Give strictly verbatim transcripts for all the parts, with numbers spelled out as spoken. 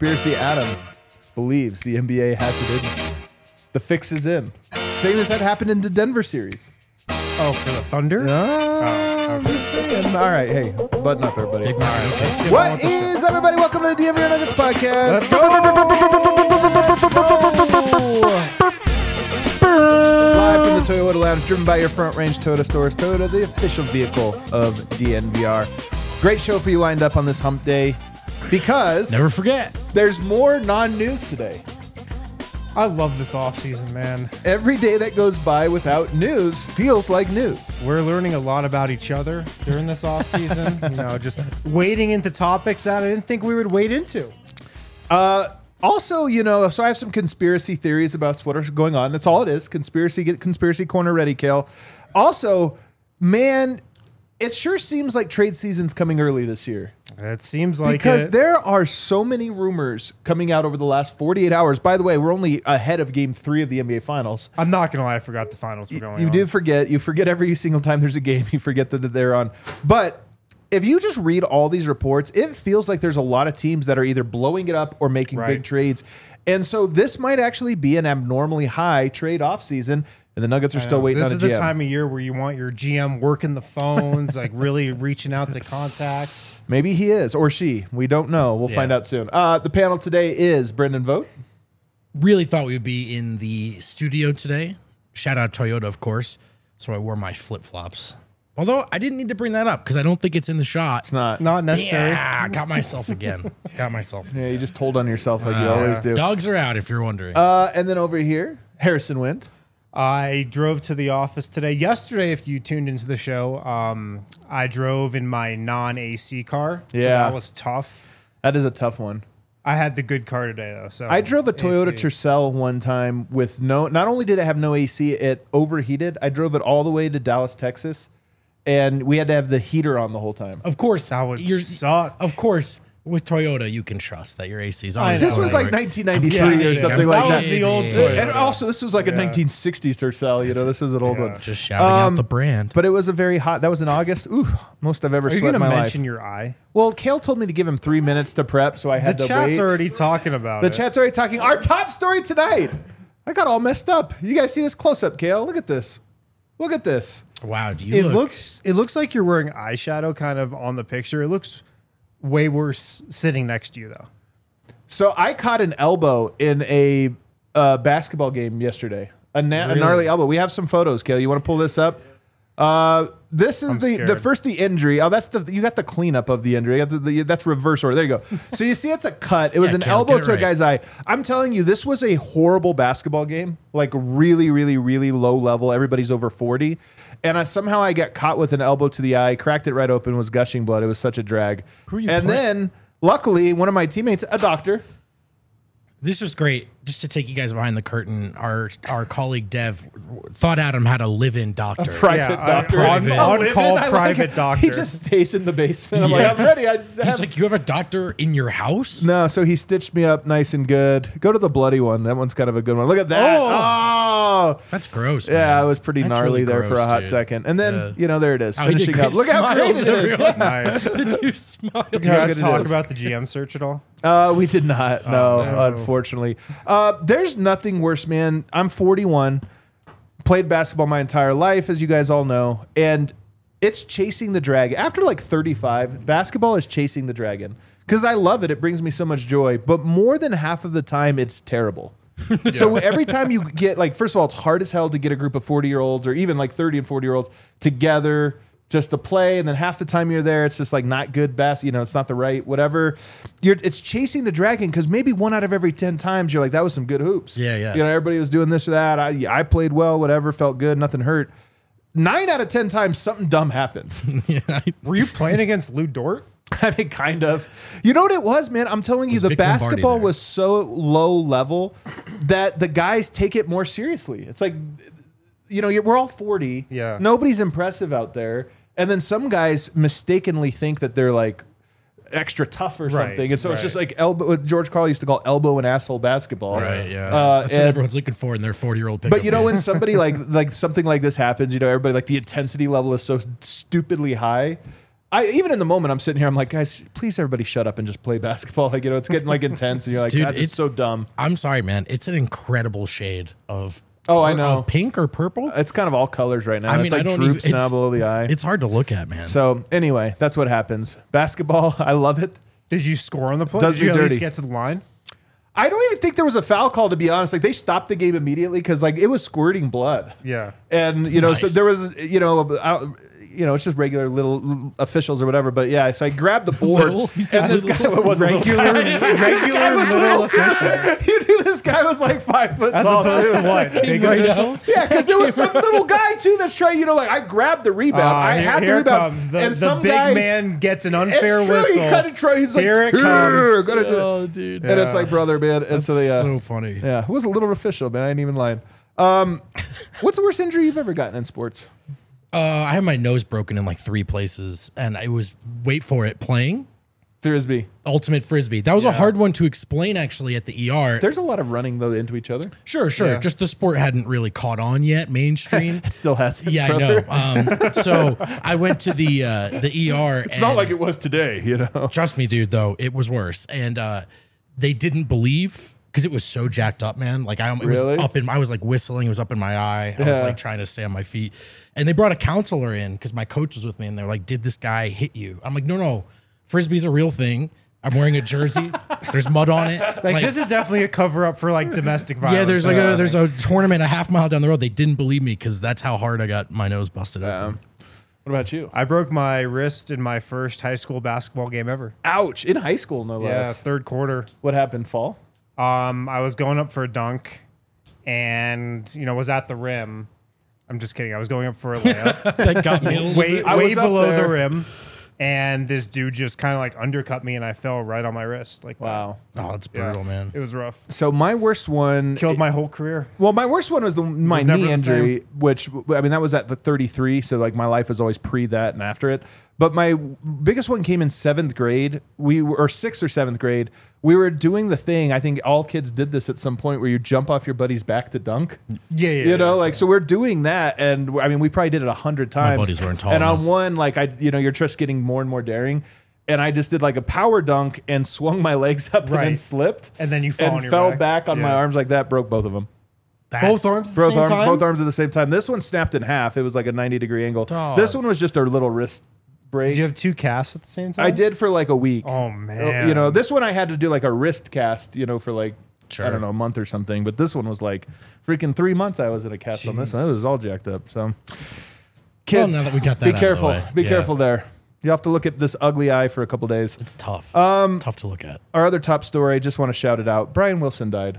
Conspiracy Adam believes the N B A has it in. The fix is in. Same as that happened in the Denver series. Oh, for the Thunder? Oh, okay. All right, hey, button up, everybody. All right, let's get on What with the show. is, everybody? Welcome to the D M V R Nuggets podcast. Let's go! Live from the Toyota Lounge, driven by your Front Range Toyota stores. Toyota, the official vehicle of D N V R. Great show for you lined up on this hump day because Never forget. there's more non-news today. I love this offseason, man. Every day that goes by without news feels like news. We're learning a lot about each other during this offseason. You know, just wading into topics that I didn't think we would wade into. Uh, also, you know, so I have some conspiracy theories about what's going on. That's all it is. Conspiracy, get conspiracy corner ready, Kale. Also, man, it sure seems like trade season's coming early this year. It seems like Because it. there are so many rumors coming out over the last forty-eight hours. By the way, we're only ahead of game three of the N B A Finals. I'm not going to lie, I forgot the finals were going You on. do forget. You forget every single time there's a game. You forget that they're on. But if you just read all these reports, it feels like there's a lot of teams that are either blowing it up or making Right. big trades. And so this might actually be an abnormally high trade offseason. And the Nuggets are I still know. waiting This on a is the G M. time of year where you want your G M working the phones, like really reaching out to contacts. Maybe he is or she. We don't know. We'll Yeah. find out soon. Uh, the panel today is Brendan Vogt. Really thought we would be in the studio today. Shout out Toyota, of course. So I wore my flip flops. Although I didn't need to bring that up because I don't think it's in the shot. It's not. Not necessary. Yeah, got myself again. Got myself. Yeah, you just told on yourself like you always do. Dogs are out if you're wondering. Uh, and then over here, Harrison Wind. I drove to the office today. Yesterday, if you tuned into the show, um, I drove in my non-A C car. So Yeah. that was tough. That is a tough one. I had the good car today, though. So I drove a Toyota A C. Tercel one time with no, not only did it have no A C, it overheated. I drove it all the way to Dallas, Texas, and we had to have the heater on the whole time. of course, That would you're- suck. Of course, with Toyota, you can trust that your A C is I always know. This was going like right. nineteen ninety-three Yeah, or yeah, something yeah. like That that. was the old Yeah. Toyota. And also, this was like a Yeah. nineteen sixties Tercel. You know, this was an old Yeah. one. Just shouting Um, out the brand. But it was a very hot. That was in August. Ooh, most I've ever Are you sweat going in to my mention life. your eye? Well, Kale told me to give him three minutes to prep, so I had The to chat's wait. already talking about The it. chat's already talking. Our top story tonight. I got all messed up. You guys see this close up, Kale? Look at this. Look at this. wow, do you It look, looks it looks like you're wearing eyeshadow kind of on the picture. It looks way worse sitting next to you, though. So I caught an elbow in a uh, basketball game yesterday. A, na- a Really? gnarly elbow. We have some photos, Kale. You want to pull this up? Uh, this is I'm the the scared. first the injury. Oh, that's the you got the cleanup of the injury. You got the, the, that's reverse order. There you go. So you see, it's a cut. It was Yeah, an Kale, elbow get it to a right. guy's eye. I'm telling you, this was a horrible basketball game. Like really, really, really low level. Everybody's over forty, and I, somehow I got caught with an elbow to the eye, cracked it right open, was gushing blood. It was such a drag. Who are you and play- then, luckily, one of my teammates, a doctor. This was great. Just to take you guys behind the curtain, our our colleague Dev thought Adam had a live-in doctor. Private Yeah, I- doctor. on- A on live-in, call I like private it. doctor. He just stays in the basement. I'm like, Yeah. I'm ready. I He's have- like, you have a doctor in your house? no, so he stitched me up nice and good. Go to the bloody one. That one's kind of a good one. Look at that. Oh. That's gross. Yeah, man. it was pretty That's gnarly really there for gross, a hot dude. second. And then, Yeah. you know, there it is. Oh, he did finishing up. great Look how great smiles, it is. everyone. Yeah. Nice. The two smiles. Did you how guys good it talk is. about the G M search at all? Uh, we did not. No, no. unfortunately. Uh, there's nothing worse, man. I'm forty-one. Played basketball my entire life, as you guys all know. And it's chasing the dragon. After like thirty-five, basketball is chasing the dragon. Because I love it. It brings me so much joy. But more than half of the time, it's terrible. So every time you get, like, first of all, it's hard as hell to get a group of forty-year-olds or even like thirty and forty-year-olds together just to play. And then half the time you're there, it's just like not good bas. You know, it's not the right whatever. You're It's chasing the dragon because maybe one out of every ten times you're like, that was some good hoops. Yeah, yeah. You know, everybody was doing this or that. I, I played well, whatever, felt good, nothing hurt. Nine out of ten times, something dumb happens. Yeah, I- Were you playing against Lou Dort? I mean, kind of. You know what it was, man? I'm telling you, Was the Vic Lombardi basketball there? was so low level that the guys take it more seriously. It's like, you know, you're, we're all forty. Yeah. Nobody's impressive out there. And then some guys mistakenly think that they're like extra tough or Right, something. And so it's right. just like elbow, what George Karl used to call elbow and asshole basketball. right, yeah. Uh, That's what and- everyone's looking for in their forty-year-old pickup. But you know, when somebody like like something like this happens, you know, everybody like the intensity level is so stupidly high. I even in the moment I'm sitting here, I'm like, guys, please everybody shut up and just play basketball. Like, you know, it's getting like intense, and you're like, Dude, God, it's it's- so dumb. I'm sorry, man. It's an incredible shade of Oh, I of know. pink or purple. It's kind of all colors right now. I mean, it's like I don't droops even, now it's, below the eye. It's hard to look at, man. So anyway, that's what happens. Basketball, I love it. Did you score on the play? Does Did you me at least dirty. get to the line? I don't even think there was a foul call, to be honest. Like, they stopped the game immediately because like it was squirting blood. Yeah. And you know, so Nice. there was, you know, I don't, you know, it's just regular little officials or whatever. But yeah, so I grabbed the board, Little? He and said this little. guy was Regular, regular little officials. You knew this guy was like five foot As tall. opposed too. to what? Big Right now. officials? Yeah, because there was some little guy too that's trying. You know, like I grabbed the rebound. Uh, I here had the here rebound, comes the, and the some big guy, man gets an unfair it's true, whistle. He kind of tried. He's like, Here it "Here, comes." gotta do it." oh, dude. And it's like, brother, man. And so they, uh, so funny. yeah, it was a little official, man. I ain't even lying. Um, what's the worst injury you've ever gotten in sports? Uh, I had my nose broken in like three places, and I was wait for it playing Frisbee. ultimate frisbee. That was a hard one to explain actually at the E R. There's a lot of running though into each other. Sure, sure. Yeah. Just the sport hadn't really caught on yet, mainstream. It still has. Yeah, brother. I know. Um, so I went to the uh, the E R. It's not like it was today, you know. Trust me, dude. Though it was worse, and uh, they didn't believe because it was so jacked up, man. Like I, it Really? was up in. I was like whistling. It was up in my eye. I was Yeah. like trying to stay on my feet, and they brought a counselor in because my coach was with me, and they're like, "Did this guy hit you?" I'm like, "No, no. Frisbee's a real thing. I'm wearing a jersey. There's mud on it. Like, this is definitely a cover up for like domestic violence. yeah. There's or like a, something. there's a tournament a half mile down the road. They didn't believe me because that's how hard I got my nose busted Um, open. what about you? I broke my wrist in my first high school basketball game ever. Ouch! In high school, no Yeah, less. third quarter. What happened? Fall? Um, I was going up for a dunk, and you know was at the rim. I'm just kidding. I was going up for a layup, That got me a little way bit. I way was up below there. the rim, and this dude just kind of like undercut me, and I fell right on my wrist. Like that. Wow. Oh, it's Yeah. brutal, man. It was rough. So my worst one Killed my whole career. Well, my worst one was the my was never knee the injury, which I mean that was at the thirty-three, so like my life was always pre that and after it. But my biggest one came in seventh grade. We were or sixth or seventh grade. We were doing the thing. I think all kids did this at some point where you jump off your buddy's back to dunk. Yeah, yeah. You know, yeah. like so we're doing that, and I mean we probably did it a hundred times. buddies weren't tall And enough. on one, like I, you know, you're just getting more and more daring. And I just did like a power dunk and swung my legs up and then Right. slipped. And then you fall and on your fell back. back, on my Yeah. arms like that, broke both of them. That's- both arms at the Both, same arm, time. both arms at the same time. This one snapped in half. It was like a ninety degree angle. Dog. This one was just a little wrist break. Did you have two casts at the same time? I did for like a week. Oh man. You know, this one I had to do like a wrist cast, you know, for like, Sure. I don't know, a month or something. But this one was like freaking three months I was in a cast on this one. It was all jacked up. So, kids, now that we got that be out of the careful. way. Be Yeah. careful there. You have to look at this ugly eye for a couple days. It's tough. Um, tough to look at. Our other top story, I just want to shout it out. Brian Wilson died.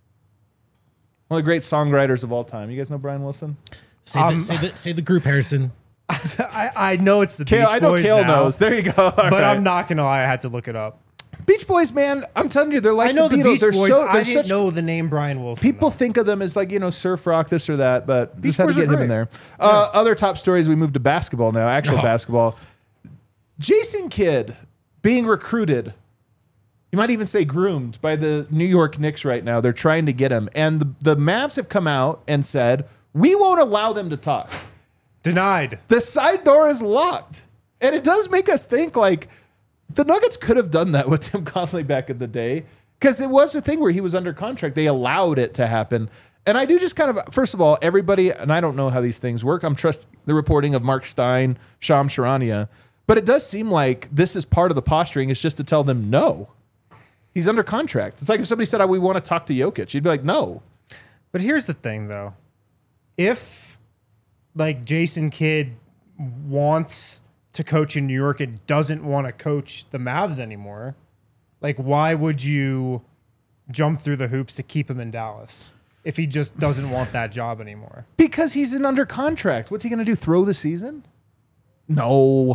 One of the great songwriters of all time. You guys know Brian Wilson? Say, Um, the, say, the, say the group, Harrison. I, I know it's the Kale, Beach I know Boys Kale now, knows. There you go. All but right. I'm not gonna lie. I had to look it up. Beach Boys, man. I'm telling you, they're like I know the the, Beatles. Beach they're Boys. so. I They're didn't such, know the name Brian Wilson. people though. think of them as like you know surf rock, this or that, but Beach just had to Boys are get him in great. there. Uh, other top stories. We moved to basketball now. Actual Oh. basketball. Jason Kidd being recruited. You might even say groomed by the New York Knicks right now. They're trying to get him, and the, the Mavs have come out and said we won't allow them to talk. Denied. The side door is locked. And it does make us think like the Nuggets could have done that with Tim Conley back in the day because it was a thing where he was under contract. They allowed it to happen. And I do just kind of, first of all, everybody, and I don't know how these things work. I'm trusting the reporting of Mark Stein, Sham Charania, but it does seem like this is part of the posturing. It's just to tell them no. He's under contract. It's like if somebody said, oh, we want to talk to Jokic. You'd be like, no. But here's the thing, though. If like Jason Kidd wants to coach in New York and doesn't want to coach the Mavs anymore, like why would you jump through the hoops to keep him in Dallas if he just doesn't want that job anymore? Because he's in under contract. What's he going to do? Throw the season? No.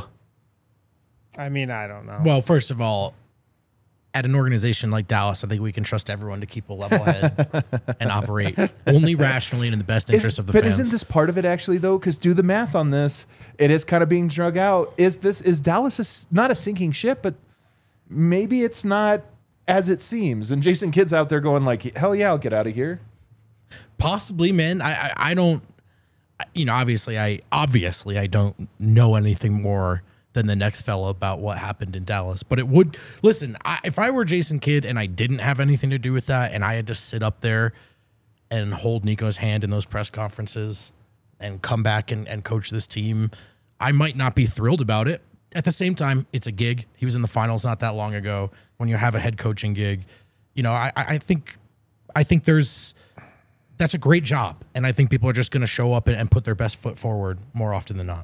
I mean, I don't know. Well, first of all, at an organization like Dallas, I think we can trust everyone to keep a level head and operate only rationally and in the best interest Is- of the but fans. isn't this part of it actually though? Because do the math on this. It is kind of being drug out. Is this is Dallas a s not a sinking ship, but maybe it's not as it seems. And Jason Kidd's out there going like, hell yeah, I'll get out of here. Possibly, man. I, I I don't. I- You know, obviously, I obviously I don't know anything more than the next fella about what happened in Dallas. But it would, listen, I, if I were Jason Kidd and I didn't have anything to do with that and I had to sit up there and hold Nico's hand in those press conferences and come back and, and coach this team, I might not be thrilled about it. At the same time, it's a gig. He was in the finals not that long ago. When you have a head coaching gig, you know, I, I think, I think there's, that's a great job. And I think people are just going to show up and, and put their best foot forward more often than not.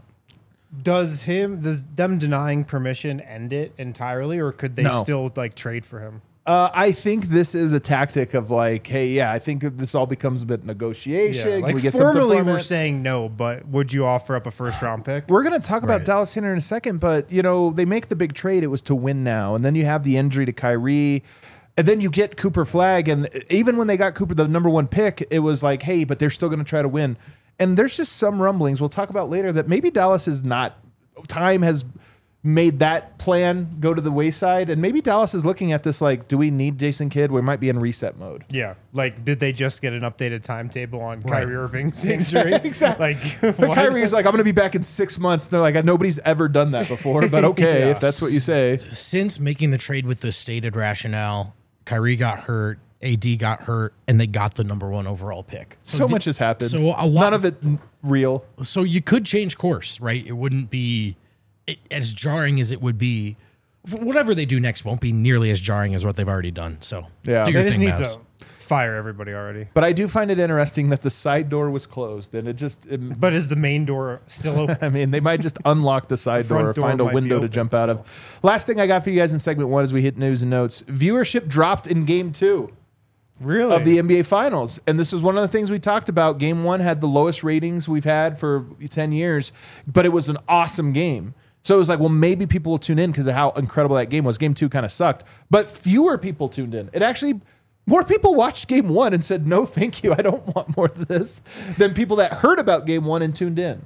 Does him, does them denying permission end it entirely, or could they No. still like trade for him? Uh, I think this is a tactic of like, hey, yeah, I think that this all becomes a bit negotiation. Can like we get something formally from we're it? saying no, but would you offer up a first round pick? We're going to talk about Right. Dallas here in a second, but, you know, they make the big trade. It was to win now. And then you have the injury to Kyrie. And then you get Cooper Flagg. And even when they got Cooper, the number one pick, it was like, hey, but they're still going to try to win. And there's just some rumblings we'll talk about later that maybe Dallas is not, time has made that plan go to the wayside. And maybe Dallas is looking at this like, do we need Jason Kidd? We might be in reset mode. Yeah, like did they just get an updated timetable on Right. Kyrie Irving's injury? Exactly. Like, But what? Kyrie's like, I'm going to be back in six months. They're like, nobody's ever done that before, but okay, Yeah. if that's what you say. Since making the trade with the stated rationale, Kyrie got hurt, A D got hurt, and they got the number one overall pick. So the- much has happened. So a lot None of it n- real. So you could change course, right? It wouldn't be it, as jarring as it would be. Whatever they do next won't be nearly as jarring as what they've already done. So Yeah. do They your just thing, need Mavs. to fire everybody already. But I do find it interesting that the side door was closed, and it just. It, But is the main door still open? I mean, they might just unlock the side The front door or door find a might be window to open jump out of. Last thing I got for you guys in segment one as we hit news and notes: viewership dropped in Game Two Really? of the N B A Finals, and this was one of the things we talked about. Game One had the lowest ratings we've had for ten years, but it was an awesome game. So it was like, well, maybe people will tune in because of how incredible that game was. Game two kind of sucked, but fewer people tuned in. It actually, more people watched game one and said, no, thank you. I don't want more of this than people that heard about game one and tuned in.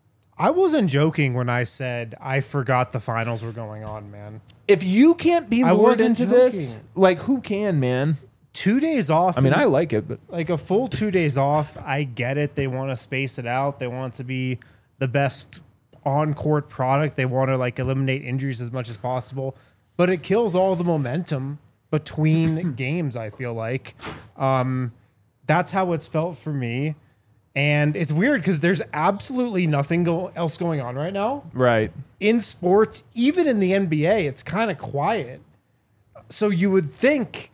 I wasn't joking when I said I forgot the finals were going on, man. If you can't be I lured wasn't into this, joking. like who can, man? Two days off. I mean, and- I like it, but like a full two days off. I get it. They want to space it out. They want it to be the best on-court product. They want to like eliminate injuries as much as possible, but it kills all the momentum between games. I feel like um, that's how it's felt for me, and it's weird because there's absolutely nothing go- else going on right now right. in sports. Even in the N B A, it's kind of quiet. So you would think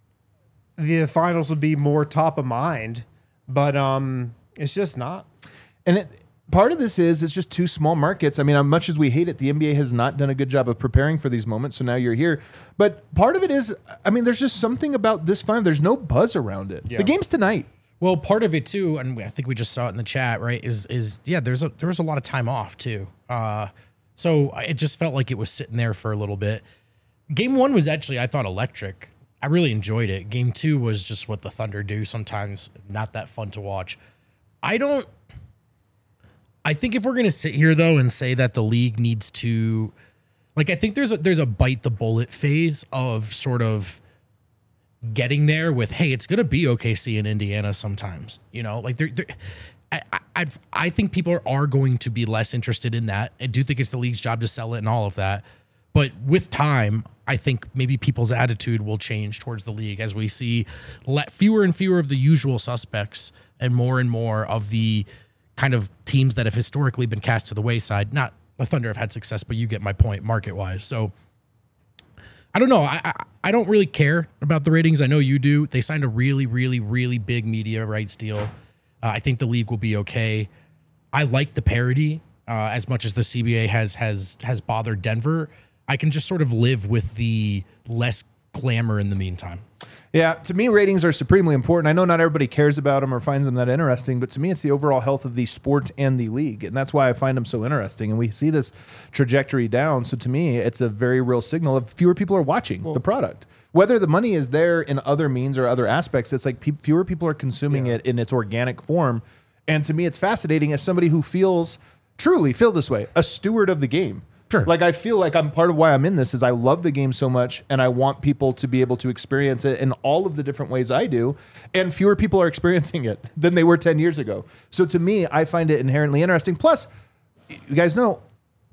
the finals would be more top of mind, but um, it's just not. And it, part of this is it's just two small markets. I mean, as much as we hate it, the N B A has not done a good job of preparing for these moments. So now you're here. But part of it is, I mean, there's just something about this final. There's no buzz around it. Yeah. The game's tonight. Well, part of it too, and I think we just saw it in the chat, right? Is is yeah, there's a there was a lot of time off too. Uh, so it just felt like it was sitting there for a little bit. Game one was actually, I thought, electric. I really enjoyed it. Game two was just what the Thunder do sometimes, not that fun to watch. I don't. I think if we're gonna sit here though and say that the league needs to, like, I think there's a there's a bite the bullet phase of sort of getting there with, hey, it's gonna be O K C in Indiana sometimes, you know, like they're, they're I, I I think people are, are going to be less interested in that. I do think it's the league's job to sell it and all of that, but with time, I think maybe people's attitude will change towards the league as we see let fewer and fewer of the usual suspects and more and more of the kind of teams that have historically been cast to the wayside. Not the Thunder have had success, but you get my point market wise. So I don't know. I, I I don't really care about the ratings. I know you do. They signed a really, really, really big media rights deal. Uh, I think the league will be okay. I like the parity uh, as much as the C B A has has has bothered Denver. I can just sort of live with the less glamour in the meantime. Yeah, to me, ratings are supremely important. I know not everybody cares about them or finds them that interesting, but to me, it's the overall health of the sport and the league. And that's why I find them so interesting. And we see this trajectory down. So to me, it's a very real signal of fewer people are watching well, the product. Whether the money is there in other means or other aspects, it's like pe- fewer people are consuming yeah. it in its organic form. And to me, it's fascinating as somebody who feels, truly feel this way, a steward of the game. Sure. Like I feel like I'm part of why I'm in this is I love the game so much and I want people to be able to experience it in all of the different ways I do, and fewer people are experiencing it than they were ten years ago. So to me, I find it inherently interesting. Plus, you guys know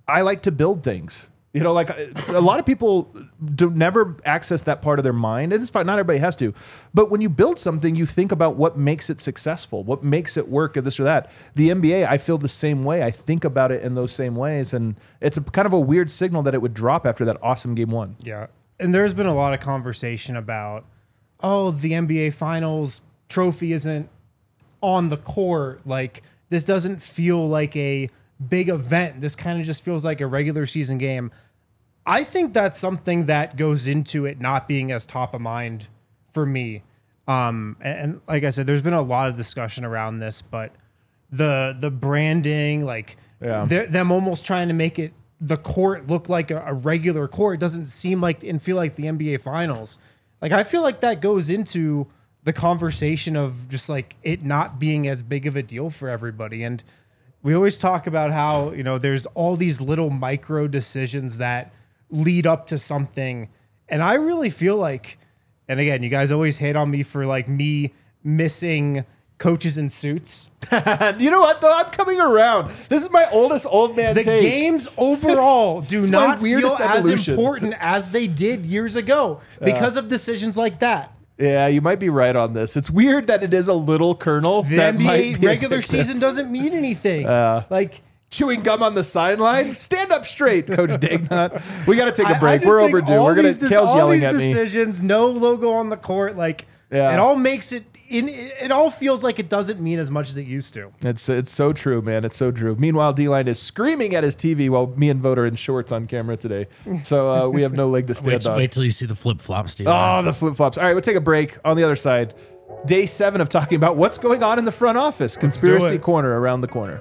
I like to build things. You know, like a lot of people do never access that part of their mind. It's fine. Not everybody has to. But when you build something, you think about what makes it successful, what makes it work, or this or that. The N B A, I feel the same way. I think about it in those same ways. And it's a kind of a weird signal that it would drop after that awesome game one. Yeah. And there's been a lot of conversation about, oh, the N B A Finals trophy isn't on the court. Like, this doesn't feel like a big event. This kind of just feels like a regular season game. I think that's something that goes into it not being as top of mind for me. Um, and, and like I said, there's been a lot of discussion around this, but the the branding, like Yeah. they're- them almost trying to make it the court look like a, a regular court doesn't seem like and feel like the N B A Finals. Like, I feel like that goes into the conversation of just like it not being as big of a deal for everybody. And we always talk about how, you know, there's all these little micro decisions that lead up to something. And I really feel like, and again, you guys always hate on me for like me missing coaches in suits. You know what, though? I'm coming around. This is my oldest old man The take. games overall do it's my not feel weirdest as evolution. important as they did years ago because of decisions like that. Yeah, you might be right on this. It's weird that it is a little kernel. The that N B A might be regular addictive. season doesn't mean anything. like, Chewing gum on the sideline. Stand up straight, Coach Dagnott. We got to take I- a I break. just We're think overdue. all We're gonna. these dis- Kale's all yelling these at me. decisions, no logo on the court. Like, Yeah. it all makes it. In, it all feels like it doesn't mean as much as it used to. It's it's so true, man. It's so true. Meanwhile, D-Line is screaming at his T V while me and Vote are in shorts on camera today. So uh, we have no leg to stand Wait, on. wait till you see the flip flops, Steve. Oh, the flip flops. All right, we'll take a break. On the other side, day seven of talking about what's going on in the front office. Conspiracy it. Corner around the corner.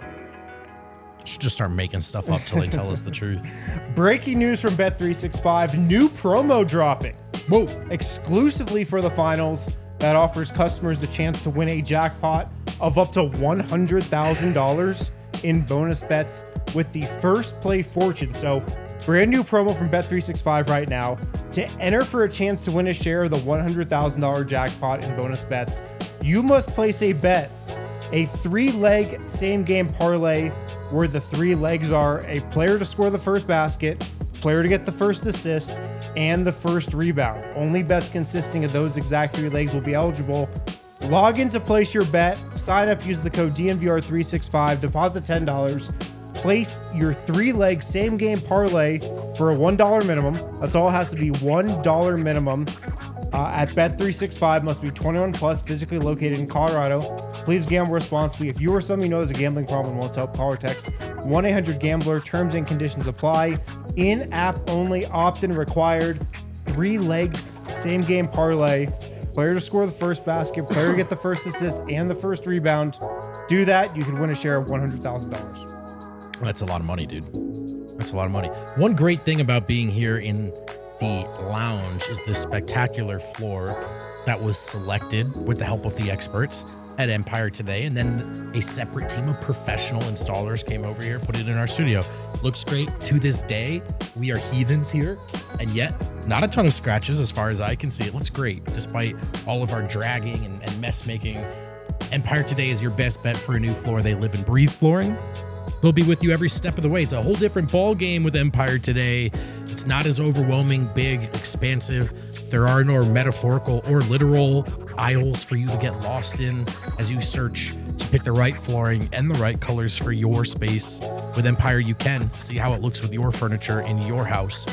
Should just start making stuff up till they tell us the truth. Breaking news from Bet three sixty-five: new promo dropping Whoa. exclusively for the finals that offers customers the chance to win a jackpot of up to one hundred thousand dollars in bonus bets with the first play fortune. So, brand new promo from Bet three sixty-five right now. To enter for a chance to win a share of the one hundred thousand dollars jackpot in bonus bets, you must place a bet, a three-leg same-game parlay where the three legs are a player to score the first basket, player to get the first assist, and the first rebound. Only bets consisting of those exact three legs will be eligible. Log in to place your bet, sign up, use the code D N V R three sixty-five, deposit ten dollars, place your three-leg same-game parlay for a one dollar minimum. That's all it has to be, one dollar minimum. Uh, at Bet three sixty-five, must be twenty-one plus, physically located in Colorado. Please gamble responsibly. If you or someone you know has a gambling problem and wants help, call or text one eight hundred gambler. Terms and conditions apply. In-app only, opt-in required. Three legs, same game parlay. Player to score the first basket, player to get the first assist and the first rebound. Do that, you could win a share of one hundred thousand dollars. That's a lot of money, dude. That's a lot of money. One great thing about being here in the lounge is the spectacular floor that was selected with the help of the experts at Empire today. And then a separate team of professional installers came over here, put it in our studio. Looks great. To this day, we are heathens here. And yet, not a ton of scratches as far as I can see. It looks great, despite all of our dragging and, and mess making. Empire today is your best bet for a new floor. They live and breathe flooring. They'll be with you every step of the way. It's a whole different ball game with Empire today. It's not as overwhelming, big, expansive. There are no metaphorical or literal aisles for you to get lost in as you search to pick the right flooring and the right colors for your space. With Empire, you can see how it looks with your furniture in your house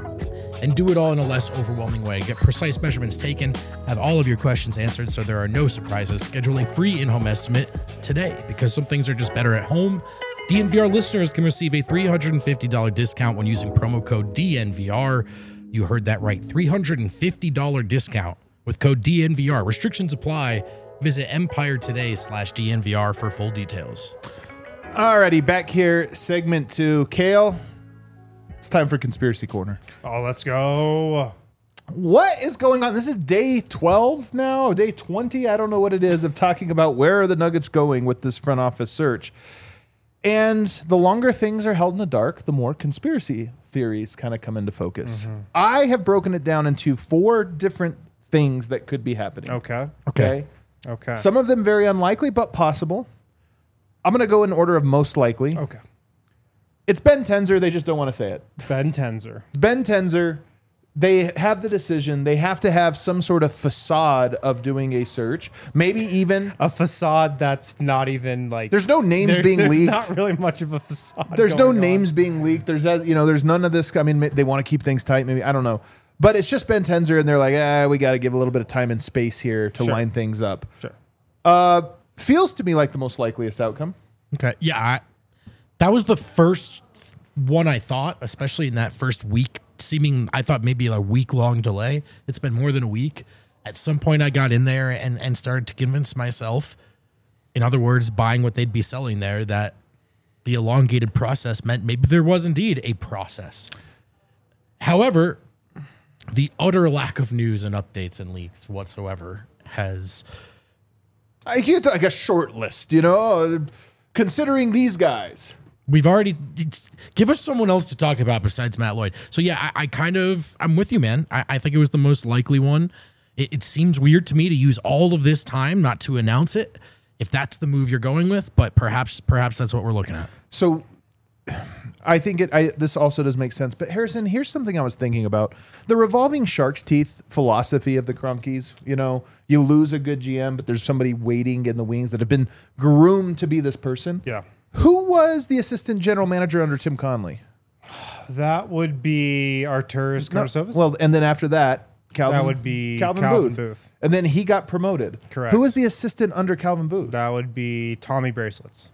and do it all in a less overwhelming way. Get precise measurements taken, have all of your questions answered so there are no surprises. Schedule a free in-home estimate today because some things are just better at home. D N V R listeners can receive a three hundred fifty dollars discount when using promo code D N V R. You heard that right, three hundred fifty dollars discount with code D N V R. Restrictions apply. Visit Empire today slash D N V R for full details. Alrighty, back here, segment two. Kale, it's time for Conspiracy Corner. Oh, let's go. What is going on? This is day twelve now, day twenty. I don't know what it is of talking about where are the Nuggets going with this front office search. And the longer things are held in the dark, the more conspiracy theories kind of come into focus. Mm-hmm. I have broken it down into four different things that could be happening. Okay. Okay. Okay. Some of them very unlikely, but possible. I'm going to go in order of most likely. okay. It's Ben Tenzer. They just don't want to say it. Ben Tenzer. Ben Tenzer. They have the decision. They have to have some sort of facade of doing a search. Maybe even A facade that's not even like. there's no names there- being there's leaked. not really much of a facade. There's no going on. names being leaked. There's uh, you know, there's none of this. I mean, they want to keep things tight. Maybe I don't know, but it's just Ben Tenzer, and they're like, ah, we got to give a little bit of time and space here to Sure. line things up. Sure. Uh, feels to me like the most likeliest outcome. Okay. Yeah. I, that was the first one I thought, especially in that first week, seeming, I thought maybe a week long delay. It's been more than a week. At some point, I got in there and, and started to convince myself, in other words, buying what they'd be selling there, that the elongated process meant maybe there was indeed a process. However, the utter lack of news and updates and leaks whatsoever has. I get like a short list, you know, considering these guys. We've already give us someone else to talk about besides Matt Lloyd. So yeah, I, I kind of I'm with you, man. I, I think it was the most likely one. It, it seems weird to me to use all of this time not to announce it, if that's the move you're going with. But perhaps perhaps that's what we're looking at. So I think it. I, this also does make sense. But Harrison, here's something I was thinking about: the revolving shark's teeth philosophy of the Cronkies. You know, you lose a good G M, but there's somebody waiting in the wings that have been groomed to be this person. Yeah. Who was the assistant general manager under Tim Conley? That would be Arturas No, Karnisovas. well, and then after that, Calvin. That would be Calvin, Calvin Booth. Booth. And then he got promoted. Correct. Who was the assistant under Calvin Booth? that would be Tommy Bracelets.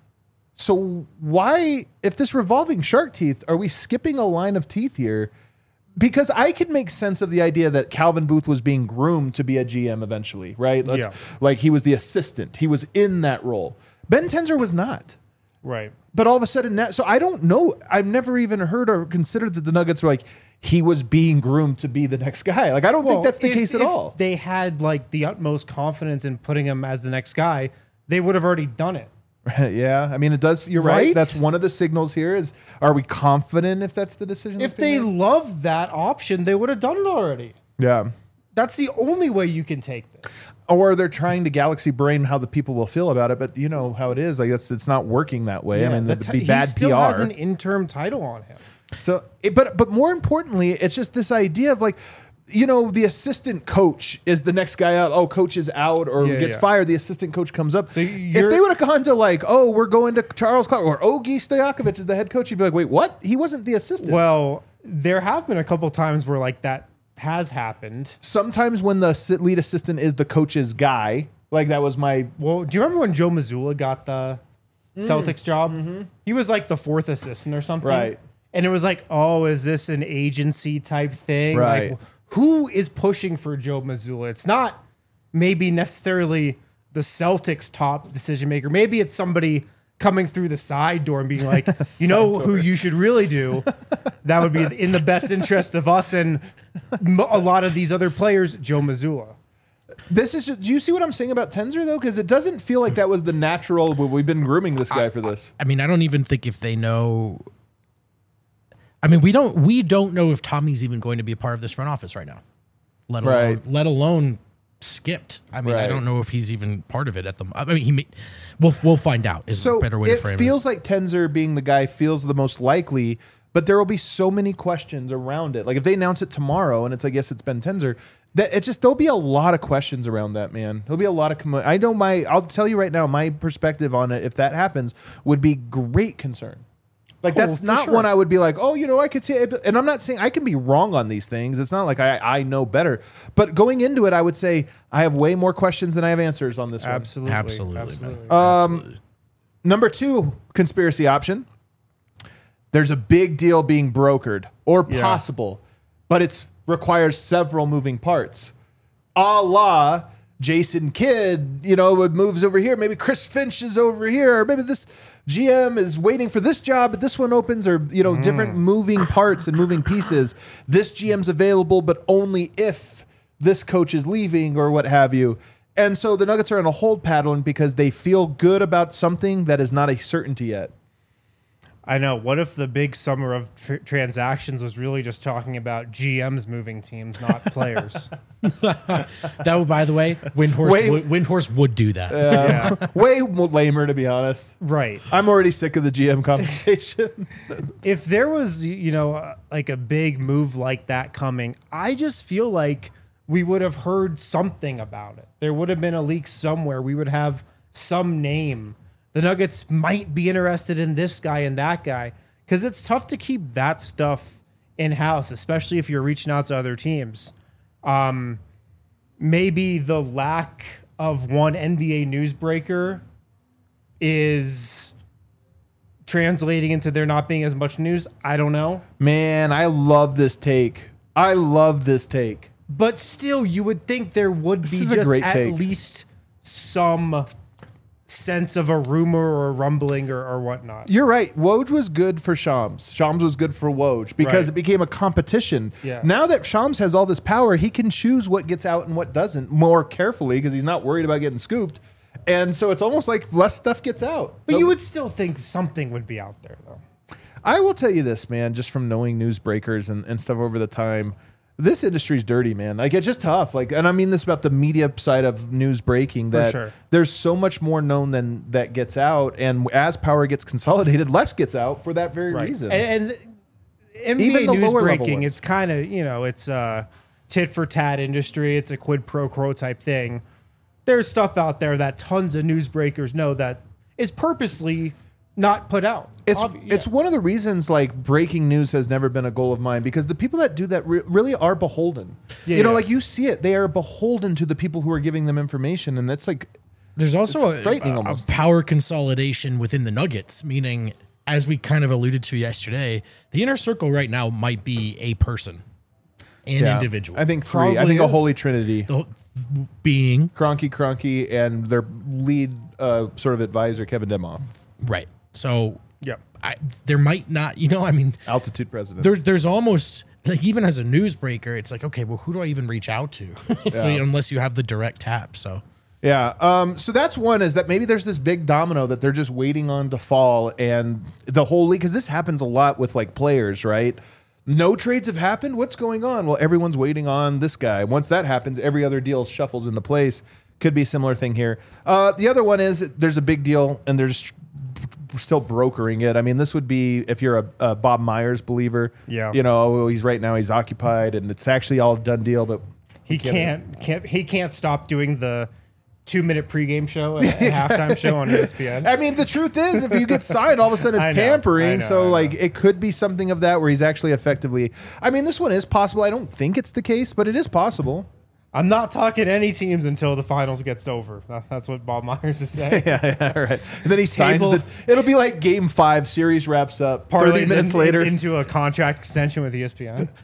So why, if this revolving shark teeth, are we skipping a line of teeth here? Because I could make sense of the idea that Calvin Booth was being groomed to be a G M eventually, right? Let's, Yeah. Like he was the assistant. He was in that role. Ben Tenzer was not. Right. But all of a sudden, now, so I don't know. I've never even heard or considered that the Nuggets were like, he was being groomed to be the next guy. Like, I don't think that's the if- case at if all. They had like the utmost confidence in putting him as the next guy, they would have already done it. Yeah. I mean, it does. You're right. Right? That's one of the signals here is, are we confident if that's the decision? If that's being they made? loved that option, they would have done it already. Yeah. That's the only way you can take this. Or they're trying to galaxy brain how the people will feel about it, but you know how it is. I guess it's not working that way. I mean, the that'd ti- be bad he still P R. has an interim title on him. So, it, but but more importantly, it's just this idea of like, you know, the assistant coach is the next guy up. Oh, coach is out or Yeah, gets yeah. fired. The assistant coach comes up. if you're- they would have gone to like, oh, we're going to Charles Clark or Ogie Stojakovic is the head coach, you'd be like, wait, what? He wasn't the assistant. Well, there have been a couple times where like that has happened. Sometimes when the assi- lead assistant is the coach's guy, like that was my Well, do you remember when Joe Mazzulla got the Mm. Celtics job? He was like the fourth assistant or something. Mm-hmm. Right. And it was like, oh, is this an agency type thing? Right. Like, who is pushing for Joe Mazzulla? It's not maybe necessarily the Celtics top decision maker. Maybe it's somebody coming through the side door and being like, you know who you should really do? That would be in the best interest of us and m- a lot of these other players, Joe Mazzulla. This is. Do you see what I'm saying about Tenzer though? Because it doesn't feel like that was the natural. well, We've been grooming this guy for this. I mean, I don't even think if they know. I mean, we don't we don't know if Tommy's even going to be a part of this front office right now. Let alone Right. let alone skipped. I mean, I Right. don't know if he's even part of it at the. I mean, he. May, we'll we'll find out. Is So a better way to it frame feels like Tenzer being the guy feels the most likely, but there will be so many questions around it. Like if they announce it tomorrow and it's I guess it's Ben Tenzer, that it just there'll be a lot of questions around that, man. There'll be a lot of. Com- I know my. I'll tell you right now, my perspective on it, if that happens, would be great concern. Like Oh, that's for not sure. one I would be like, oh, you know, I could see it. And I'm not saying I can be wrong on these things. It's not like I, I know better. But going into it, I would say I have way more questions than I have answers on this one. Absolutely. Absolutely, man. Absolutely. Absolutely. Number two conspiracy option. There's a big deal being brokered or Yeah. possible, but it requires several moving parts. A la Jason Kidd, you know, it moves over here. Maybe Chris Finch is over here. Or maybe this G M is waiting for this job, but this one opens, or, you know, different moving parts and moving pieces. This G M's available, but only if this coach is leaving or what have you. And so the Nuggets are in a hold pattern because they feel good about something that is not a certainty yet. I know. What if the big summer of tr- transactions was really just talking about G Ms moving teams, not players? That would, by the way, Windhorse Wait. would, Windhorse would do that. Yeah. Way more lamer, to be honest. Right. I'm already sick of the G M conversation. If there was, you know, uh, like a big move like that coming, I just feel like we would have heard something about it. There would have been a leak somewhere. We would have some name. The Nuggets might be interested in this guy and that guy, because it's tough to keep that stuff in-house, especially if you're reaching out to other teams. Um, maybe the lack of one N B A newsbreaker is translating into there not being as much news. I don't know. Man, I love this take. I love this take. But still, you would think there would This be is a just great at take. least some sense of a rumor or a rumbling or, or whatnot. You're right. Woj was good for Shams. Shams was good for Woj because Right. it became a competition. Yeah. Now that Shams has all this power, he can choose what gets out and what doesn't more carefully because he's not worried about getting scooped. And so it's almost like less stuff gets out. But So- you would still think something would be out there, though. I will tell you this, man, just from knowing newsbreakers and, and stuff over the time, this industry's dirty, man. Like, it's just tough. Like, and I mean this about the media side of news breaking, that sure. there's so much more known than that gets out. And as power gets consolidated, less gets out for that very reason. And, and N B A Even the news lower level breaking, ones. it's kind of, you know, it's a tit for tat industry. It's a quid pro quo type thing. There's stuff out there that tons of newsbreakers know that is purposely not put out. It's Obvi- it's yeah. one of the reasons like breaking news has never been a goal of mine, because the people that do that re- really are beholden. Yeah, you know, yeah. like you see it, they are beholden to the people who are giving them information, and that's like There's also It's a, frightening a- a almost. power consolidation within the Nuggets, meaning, as we kind of alluded to yesterday, the inner circle right now might be a person, an yeah, individual. I think three. I Probably think a is. holy trinity: The whole- being Cronky, Cronky, and their lead uh, sort of advisor, Kevin Demoff, right. So Yep. I, there might not, you know, I mean, altitude president. there, there's almost like, even as a newsbreaker, it's like, okay, well, who do I even reach out to if Yeah. we- unless you have the direct tap? So Yeah. Um, so that's one, is that maybe there's this big domino that they're just waiting on to fall, and the whole league, because this happens a lot with like players, right? No trades have happened. What's going on? Well, everyone's waiting on this guy. Once that happens, every other deal shuffles into place. Could be a similar thing here. Uh, the other one is there's a big deal and they're just still brokering it. I mean, this would be if you're a, a Bob Myers believer. Yeah. You know, oh, he's right now he's occupied and it's actually all a done deal, but He can't, can't he can't stop doing the two minute pregame show and halftime show on E S P N. I mean, the truth is, if you get signed, all of a sudden I it's know, I tampering. know, I so, know. like, it could be something of that where he's actually effectively. I mean, this one is possible. I don't think it's the case, but it is possible. I'm not talking any teams until the finals gets over. That- That's what Bob Myers is saying. yeah, yeah, right. And then he signs Table- the. It'll be like Game Five, series wraps up. Thirty Parlays minutes in- later, into a contract extension with E S P N.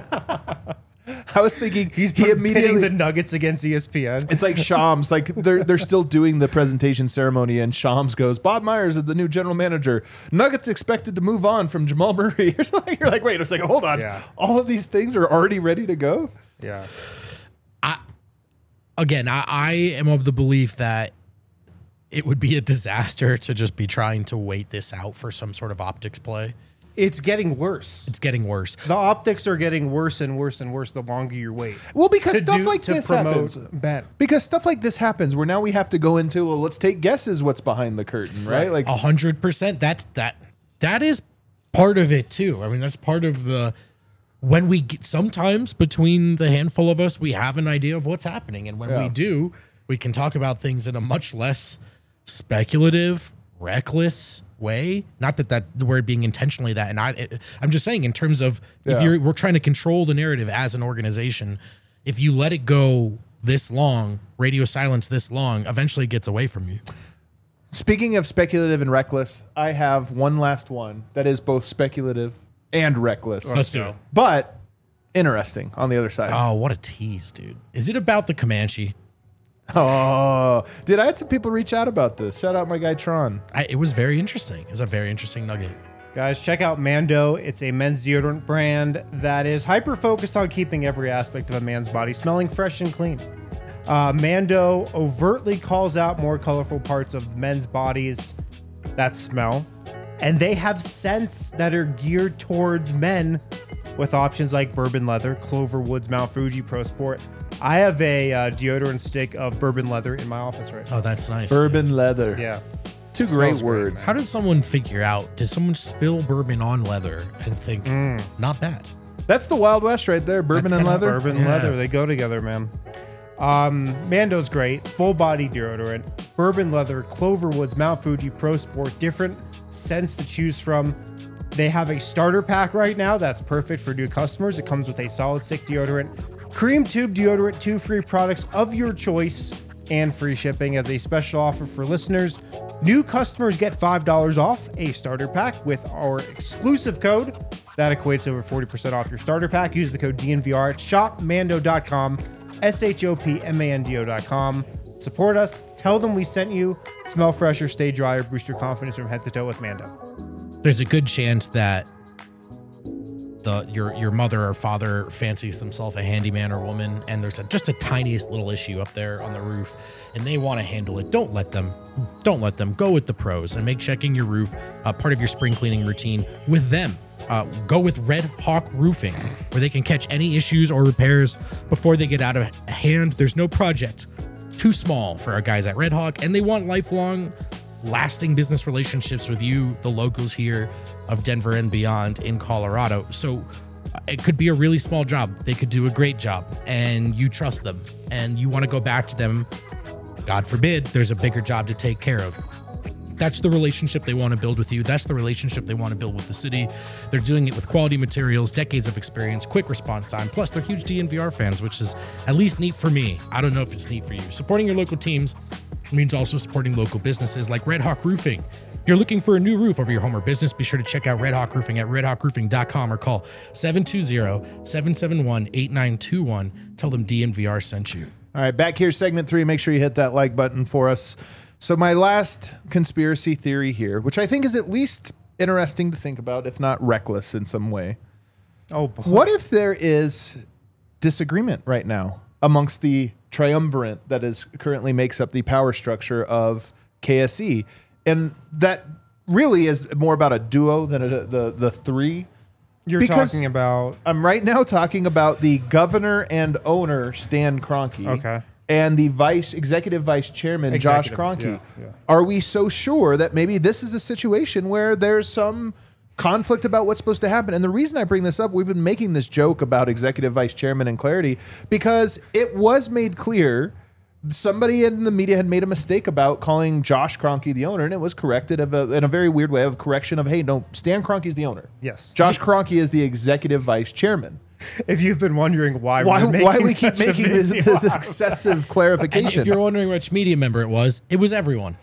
I was thinking He's he pitting immediately. the Nuggets against E S P N. It's like Shams, like they're they're still doing the presentation ceremony, and Shams goes, "Bob Myers is the new general manager. Nuggets expected to move on from Jamal Murray." Or something. You're like, wait a second, hold on. Yeah. All of these things are already ready to go. Yeah. again, I, I am of the belief that it would be a disaster to just be trying to wait this out for some sort of optics play. It's getting worse. It's getting worse. The optics are getting worse and worse and worse the longer you wait. Well, because to stuff do- like to this promote happens. Ben. Because stuff like this happens where now we have to go into, well, let's take guesses what's behind the curtain, right? Like, A hundred percent. That's that. That is part of it too. I mean, that's part of the when we get, sometimes between the handful of us, we have an idea of what's happening, and when Yeah. we do, we can talk about things in a much less speculative, reckless way. Not that that the word being intentionally that, and I, it, I'm just saying in terms of if Yeah. you're we're trying to control the narrative as an organization. If you let it go this long, radio silence this long, eventually it gets away from you. speaking of speculative and reckless, I have one last one that is both speculative and reckless, Let's do it. but interesting on the other side. Oh, what a tease, dude. Is it about the Comanche? Oh, did I had some people reach out about this? Shout out my guy Tron. I, it was very interesting. It's a very interesting nugget. Guys, check out Mando. It's a men's deodorant brand that is hyper focused on keeping every aspect of a man's body smelling fresh and clean. Uh, Mando overtly calls out more colorful parts of men's bodies that smell. And they have scents that are geared towards men with options like bourbon leather, Clover Woods, Mount Fuji, Pro Sport. I have a uh, deodorant stick of bourbon leather in my office right now. Oh, that's nice. Bourbon leather. Yeah. Two Smells great great, words. man. How did someone figure out? Did someone spill bourbon on leather and think, not bad? That's the Wild West right there. Bourbon That's and kinda leather. Bourbon Yeah. leather, they go together, man. Um, Mando's great. Full body deodorant, bourbon leather, Clover Woods, Mount Fuji, Pro Sport, different scents to choose from. They have a starter pack right now that's perfect for new customers. It comes with a solid stick deodorant, cream tube deodorant, two free products of your choice, and free shipping. As a special offer for listeners, new customers get five dollars off a starter pack with our exclusive code. That equates over forty percent off your starter pack. Use the code D N V R at shop mando dot com, S H O P M A N D O dot com. Support us. Tell them we sent you. Smell fresher, stay drier, boost your confidence from head to toe with Mando. There's a good chance that the your your mother or father fancies themselves a handyman or woman, and there's a, just a tiniest little issue up there on the roof, and they want to handle it. Don't let them. Don't let them. Go with the pros and make checking your roof uh, part of your spring cleaning routine with them. Uh, go with Red Hawk Roofing, where they can catch any issues or repairs before they get out of hand. There's no project too small for our guys at Red Hawk, and they want lifelong, lasting business relationships with you, the locals here of Denver and beyond in Colorado. So uh, it could be a really small job. They could do a great job, and you trust them, and you want to go back to them. God forbid, there's a bigger job to take care of. That's the relationship they want to build with you. That's the relationship they want to build with the city. They're doing it with quality materials, decades of experience, quick response time. Plus, they're huge D N V R fans, which is at least neat for me. I don't know if it's neat for you. Supporting your local teams means also supporting local businesses like Red Hawk Roofing. If you're looking for a new roof over your home or business, be sure to check out Red Hawk Roofing at red hawk roofing dot com or call seven two zero, seven seven one, eight nine two one. Tell them D N V R sent you. All right, back here, segment three. Make sure you hit that like button for us. So my last conspiracy theory here, which I think is at least interesting to think about, if not reckless in some way. Oh, boy. What if there is disagreement right now amongst the triumvirate that is currently makes up the power structure of K S E, and that really is more about a duo than a, the the three? You're Because talking about... I'm right now talking about the governor and owner Stan Kroenke. Okay. And the vice executive vice chairman Josh Executive, Kroenke. yeah, yeah. Are we so sure that maybe this is a situation where there's some conflict about what's supposed to happen? And the reason I bring this up, we've been making this joke about executive vice chairman and clarity because it was made clear somebody in the media had made a mistake about calling Josh Kroenke the owner, and it was corrected of a, in a very weird way of correction of, hey, no, Stan Kroenke is the owner. Yes. Josh Kroenke is the executive vice chairman. If you've been wondering why, Why, we're making why we keep such a making this, video this out. excessive And clarification? if you're wondering which media member it was, it was everyone.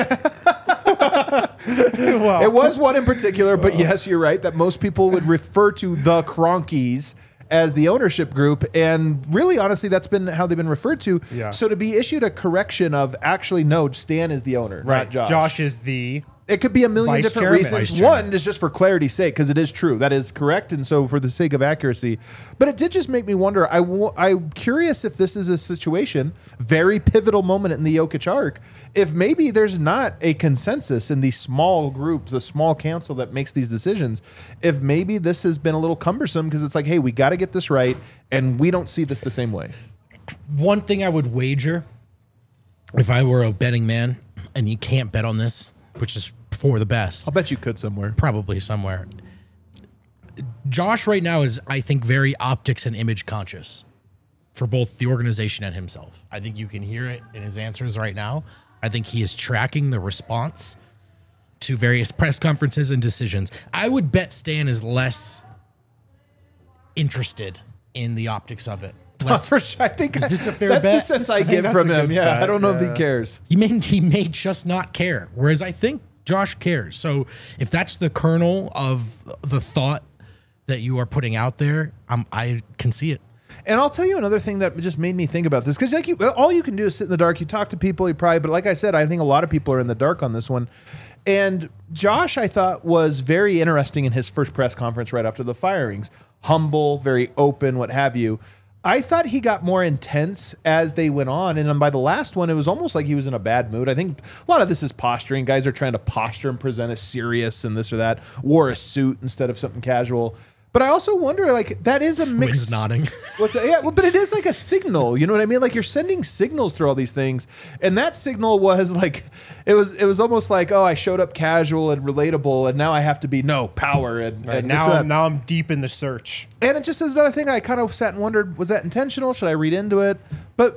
Well, It was one in particular, but yes, you're right that most people would refer to the Kroenkes as the ownership group, and really, honestly, that's been how they've been referred to. Yeah. So to be issued a correction of actually, no, Stan is the owner, right. not Josh. Josh is the... It could be a million Vice different chairman. reasons. Vice chairman. One is just for clarity's sake, because it is true. That is correct. And so for the sake of accuracy. But it did just make me wonder. I w- I'm curious if this is a situation, very pivotal moment in the Jokic arc, if maybe there's not a consensus in the small group, the small council that makes these decisions, if maybe this has been a little cumbersome because it's like, hey, we got to get this right, and we don't see this the same way. One thing I would wager, if I were a betting man, and you can't bet on this, which is for the best, I'll bet you could somewhere. probably somewhere. Josh right now is, I think, very optics and image conscious for both the organization and himself. I think you can hear it in his answers right now. I think he is tracking the response to various press conferences and decisions. I would bet Stan is less interested in the optics of it. Less, For sure. I think Is this a fair that's bet? the sense I, think get that's from a him. good Yeah, bet, I don't know if yeah. he cares. He may he may just not care. Whereas I think Josh cares. So if that's the kernel of the thought that you are putting out there, um, I can see it. And I'll tell you another thing that just made me think about this, because like you, all you can do is sit in the dark. You talk to people, you probably, but like I said, I think a lot of people are in the dark on this one. And Josh, I thought, was very interesting in his first press conference right after the firings. Humble, very open, what have you. I thought he got more intense as they went on, and then by the last one, it was almost like he was in a bad mood. I think a lot of this is posturing. Guys are trying to posture and present as serious and this or that. Wore a suit instead of something casual. But I also wonder, like, that is a mix. Wind's nodding. What's that? Yeah, well, but it is like a signal. You know what I mean? Like you're sending signals through all these things, and that signal was like, it was it was almost like, oh, I showed up casual and relatable, and now I have to be no power and, Right, and now, this, I'm, now I'm deep in the search. and it just is another thing I kind of sat and wondered, was that intentional? Should I read into it? But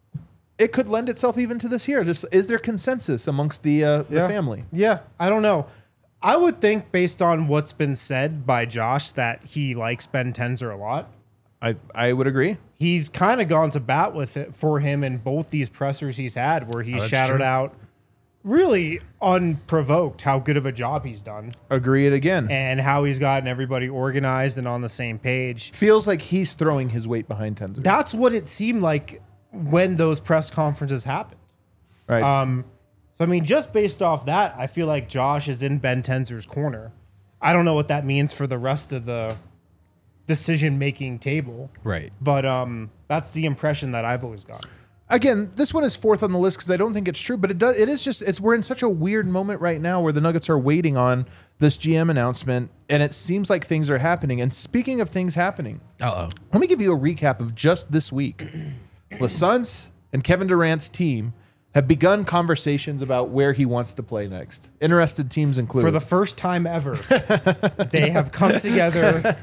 it could lend itself even to this year. Just is there consensus amongst the uh, the Yeah. family? Yeah, I don't know. I would think, based on what's been said by Josh, that he likes Ben Tenzer a lot. I I would agree. He's kind of gone to bat with it for him in both these pressers he's had, where he's Oh, that's shouted true. out, really unprovoked, how good of a job he's done Agree it again. and how he's gotten everybody organized and on the same page. Feels like he's throwing his weight behind Tenzer. That's what it seemed like when those press conferences happened. Right. Um, so, I mean, just based off that, I feel like Josh is in Ben Tenzer's corner. I don't know what that means for the rest of the decision-making table, Right. but um, that's the impression that I've always gotten. Again, this one is fourth on the list because I don't think it's true, but it does. It is just. It's we're in such a weird moment right now where the Nuggets are waiting on this G M announcement, and it seems like things are happening. And speaking of things happening, Uh oh. let me give you a recap of just this week. The Suns and Kevin Durant's team have begun conversations about where he wants to play next. Interested teams include For the first time ever, they have come together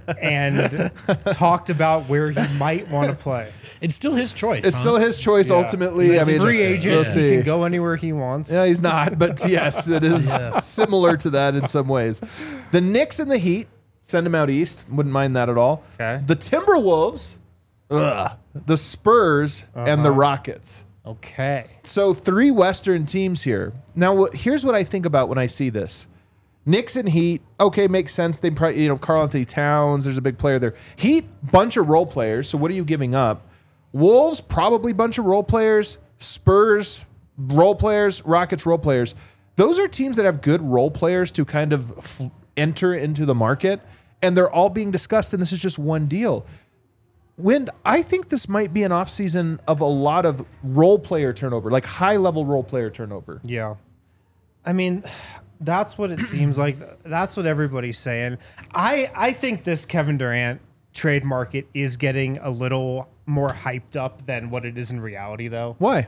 and talked about where he might want to play. It's still his choice. it's huh? still his choice Yeah. ultimately. He's I mean, a free we'll agent. see. He can go anywhere he wants. Yeah, he's not, but yes, it is similar to that in some ways. The Knicks and the Heat, send him out east. Wouldn't mind that at all. Okay. The Timberwolves, ugh, the Spurs, and the Rockets. Okay. So three Western teams here. Now, what, here's what I think about when I see this. Knicks and Heat, okay, makes sense. They probably, you know, Karl Anthony Towns, there's a big player there. Heat, bunch of role players. So what are you giving up? Wolves, probably bunch of role players. Spurs, role players. Rockets, role players. Those are teams that have good role players to kind of f- enter into the market, and they're all being discussed, and this is just one deal. Wind, I think this might be an offseason of a lot of role player turnover, like high-level role player turnover. Yeah. I mean, that's what it seems like. That's what everybody's saying. I, I think this Kevin Durant trade market is getting a little more hyped up than what it is in reality, though. Why?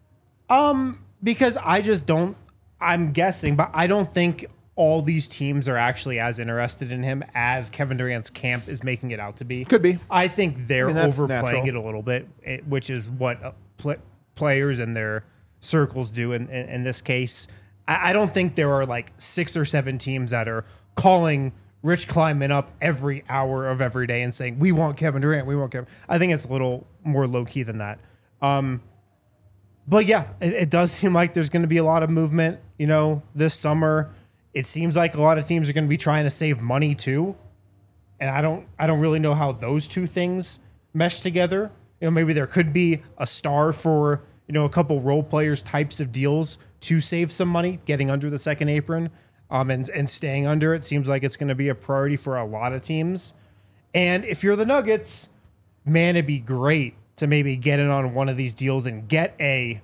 Um, because I just don't, I'm guessing, but I don't think all these teams are actually as interested in him as Kevin Durant's camp is making it out to be. Could be. I think they're I mean, that's overplaying natural. it a little bit, eh, which is what uh, pl- players and their circles do in, in, in this case. I, I don't think there are like six or seven teams that are calling Rich Kleiman up every hour of every day and saying, we want Kevin Durant, we want Kevin. I think it's a little more low-key than that. Um, but yeah, it, it does seem like there's going to be a lot of movement, you know, this summer. It seems like a lot of teams are going to be trying to save money too. And I don't I don't really know how those two things mesh together. You know, maybe there could be a star for, you know, a couple role players types of deals to save some money, getting under the second apron, um, and, and staying under it. Seems like it's going to be a priority for a lot of teams. And if you're the Nuggets, man, it'd be great to maybe get in on one of these deals and get a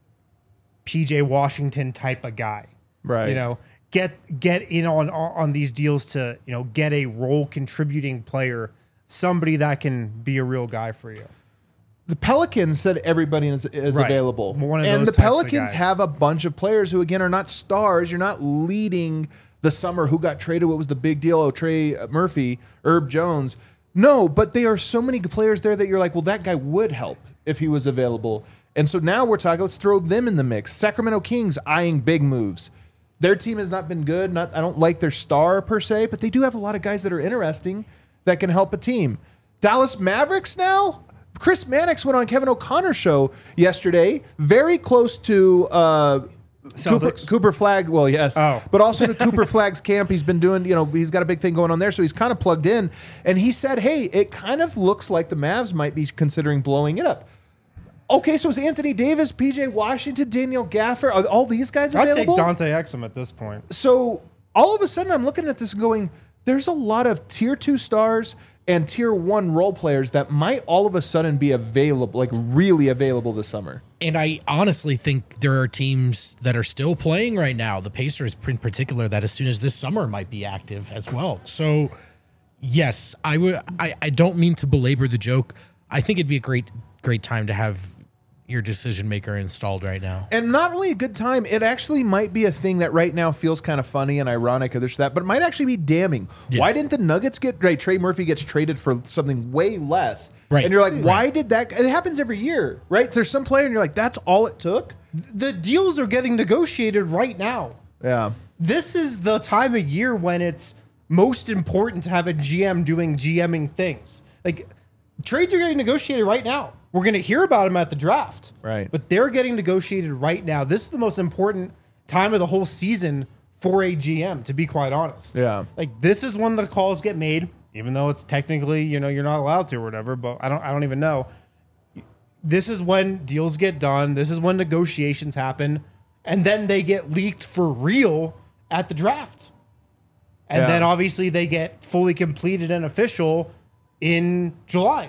P J Washington type of guy. Right. You know, get get in on on these deals to, you know, get a role contributing player, somebody that can be a real guy for you. The Pelicans said everybody is, is Right. available. One of and those the types of Pelicans guys. have a bunch of players who, again, are not stars. You're not leading the summer who got traded. What was the big deal? Oh, Trey Murphy, Herb Jones. No, but there are so many players there that you're like, well, that guy would help if he was available. And so now we're talking, let's throw them in the mix. Sacramento Kings eyeing big moves. Their team has not been good. Not, I don't like their star per se, but they do have a lot of guys that are interesting that can help a team. Dallas Mavericks now? Chris Mannix went on Kevin O'Connor's show yesterday, very close to uh, Cooper, Celtics? Cooper Flag. Well, yes, Oh. but also to Cooper Flag's camp. He's been doing, you know, he's got a big thing going on there, so he's kind of plugged in. And he said, hey, it kind of looks like the Mavs might be considering blowing it up. Okay, so is Anthony Davis, P J Washington, Daniel Gaffer, are all these guys I'd available? take Dante Exum at this point. So all of a sudden, I'm looking at this going, there's a lot of tier two stars and tier one role players that might all of a sudden be available, like really available this summer. And I honestly think there are teams that are still playing right now, the Pacers in particular, that as soon as this summer might be active as well. So, yes, I would. I, I don't mean to belabor the joke. I think it'd be a great, great time to have your decision maker installed right now. And not only a good time, it actually might be a thing that right now feels kind of funny and ironic or this or that, but it might actually be damning. Yeah. Why didn't the Nuggets get, right, Trey Murphy gets traded for something way less. Right. And you're like, why right. did that? It happens every year, right? There's some player and you're like, that's all it took? The deals are getting negotiated right now. Yeah. This is the time of year when it's most important to have a G M doing GMing things. Like, trades are getting negotiated right now. We're going to hear about them at the draft. Right. But they're getting negotiated right now. This is the most important time of the whole season for a G M, to be quite honest. Yeah. Like, this is when the calls get made, even though it's technically, you know, you're not allowed to or whatever, but I don't I don't even know. This is when deals get done. This is when negotiations happen. And then they get leaked for real at the draft. And Yeah. then obviously they get fully completed and official in July.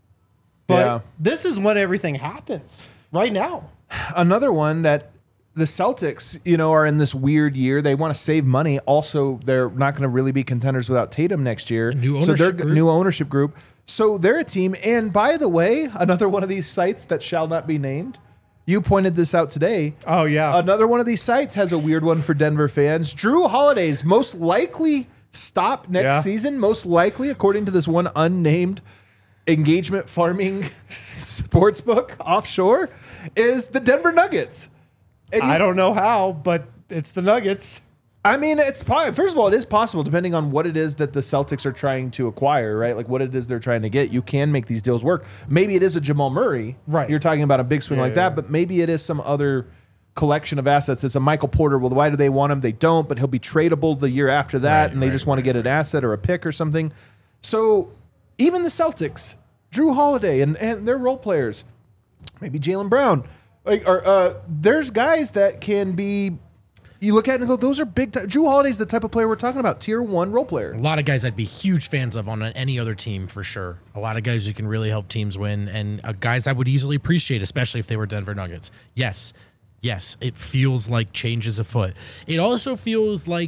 But Yeah. this is when everything happens right now. Another one that the Celtics, you know, are in this weird year. They want to save money. Also, they're not going to really be contenders without Tatum next year. A new so they're ownership group. new ownership group. So they're a team. And by the way, another one of these sites that shall not be named. You pointed this out today. Oh, yeah. Another one of these sites has a weird one for Denver fans. Drew Holiday's most likely stop next Yeah. season, most likely, according to this one unnamed engagement farming sportsbook offshore, is the Denver Nuggets. And you- I don't know how, but it's the Nuggets. I mean, it's po- first of all, it is possible depending on what it is that the Celtics are trying to acquire, right? Like what it is they're trying to get. You can make these deals work. Maybe it is a Jamal Murray, Right. You're talking about a big swing Yeah, like yeah. that, but maybe it is some other collection of assets. It's a Michael Porter. Well, why do they want him? They don't, but he'll be tradable the year after that, Right, and they right, just want to get an asset or a pick or something. So even the Celtics, Drew Holiday and, and their role players, maybe Jaylen Brown, like, are, uh, there's guys that can be. You look at it and go, those are big. T- Drew Holiday's the type of player we're talking about, tier one role player. A lot of guys I'd be huge fans of on any other team for sure. A lot of guys who can really help teams win, and uh, guys I would easily appreciate, especially if they were Denver Nuggets. Yes, yes, it feels like change is afoot. It also feels like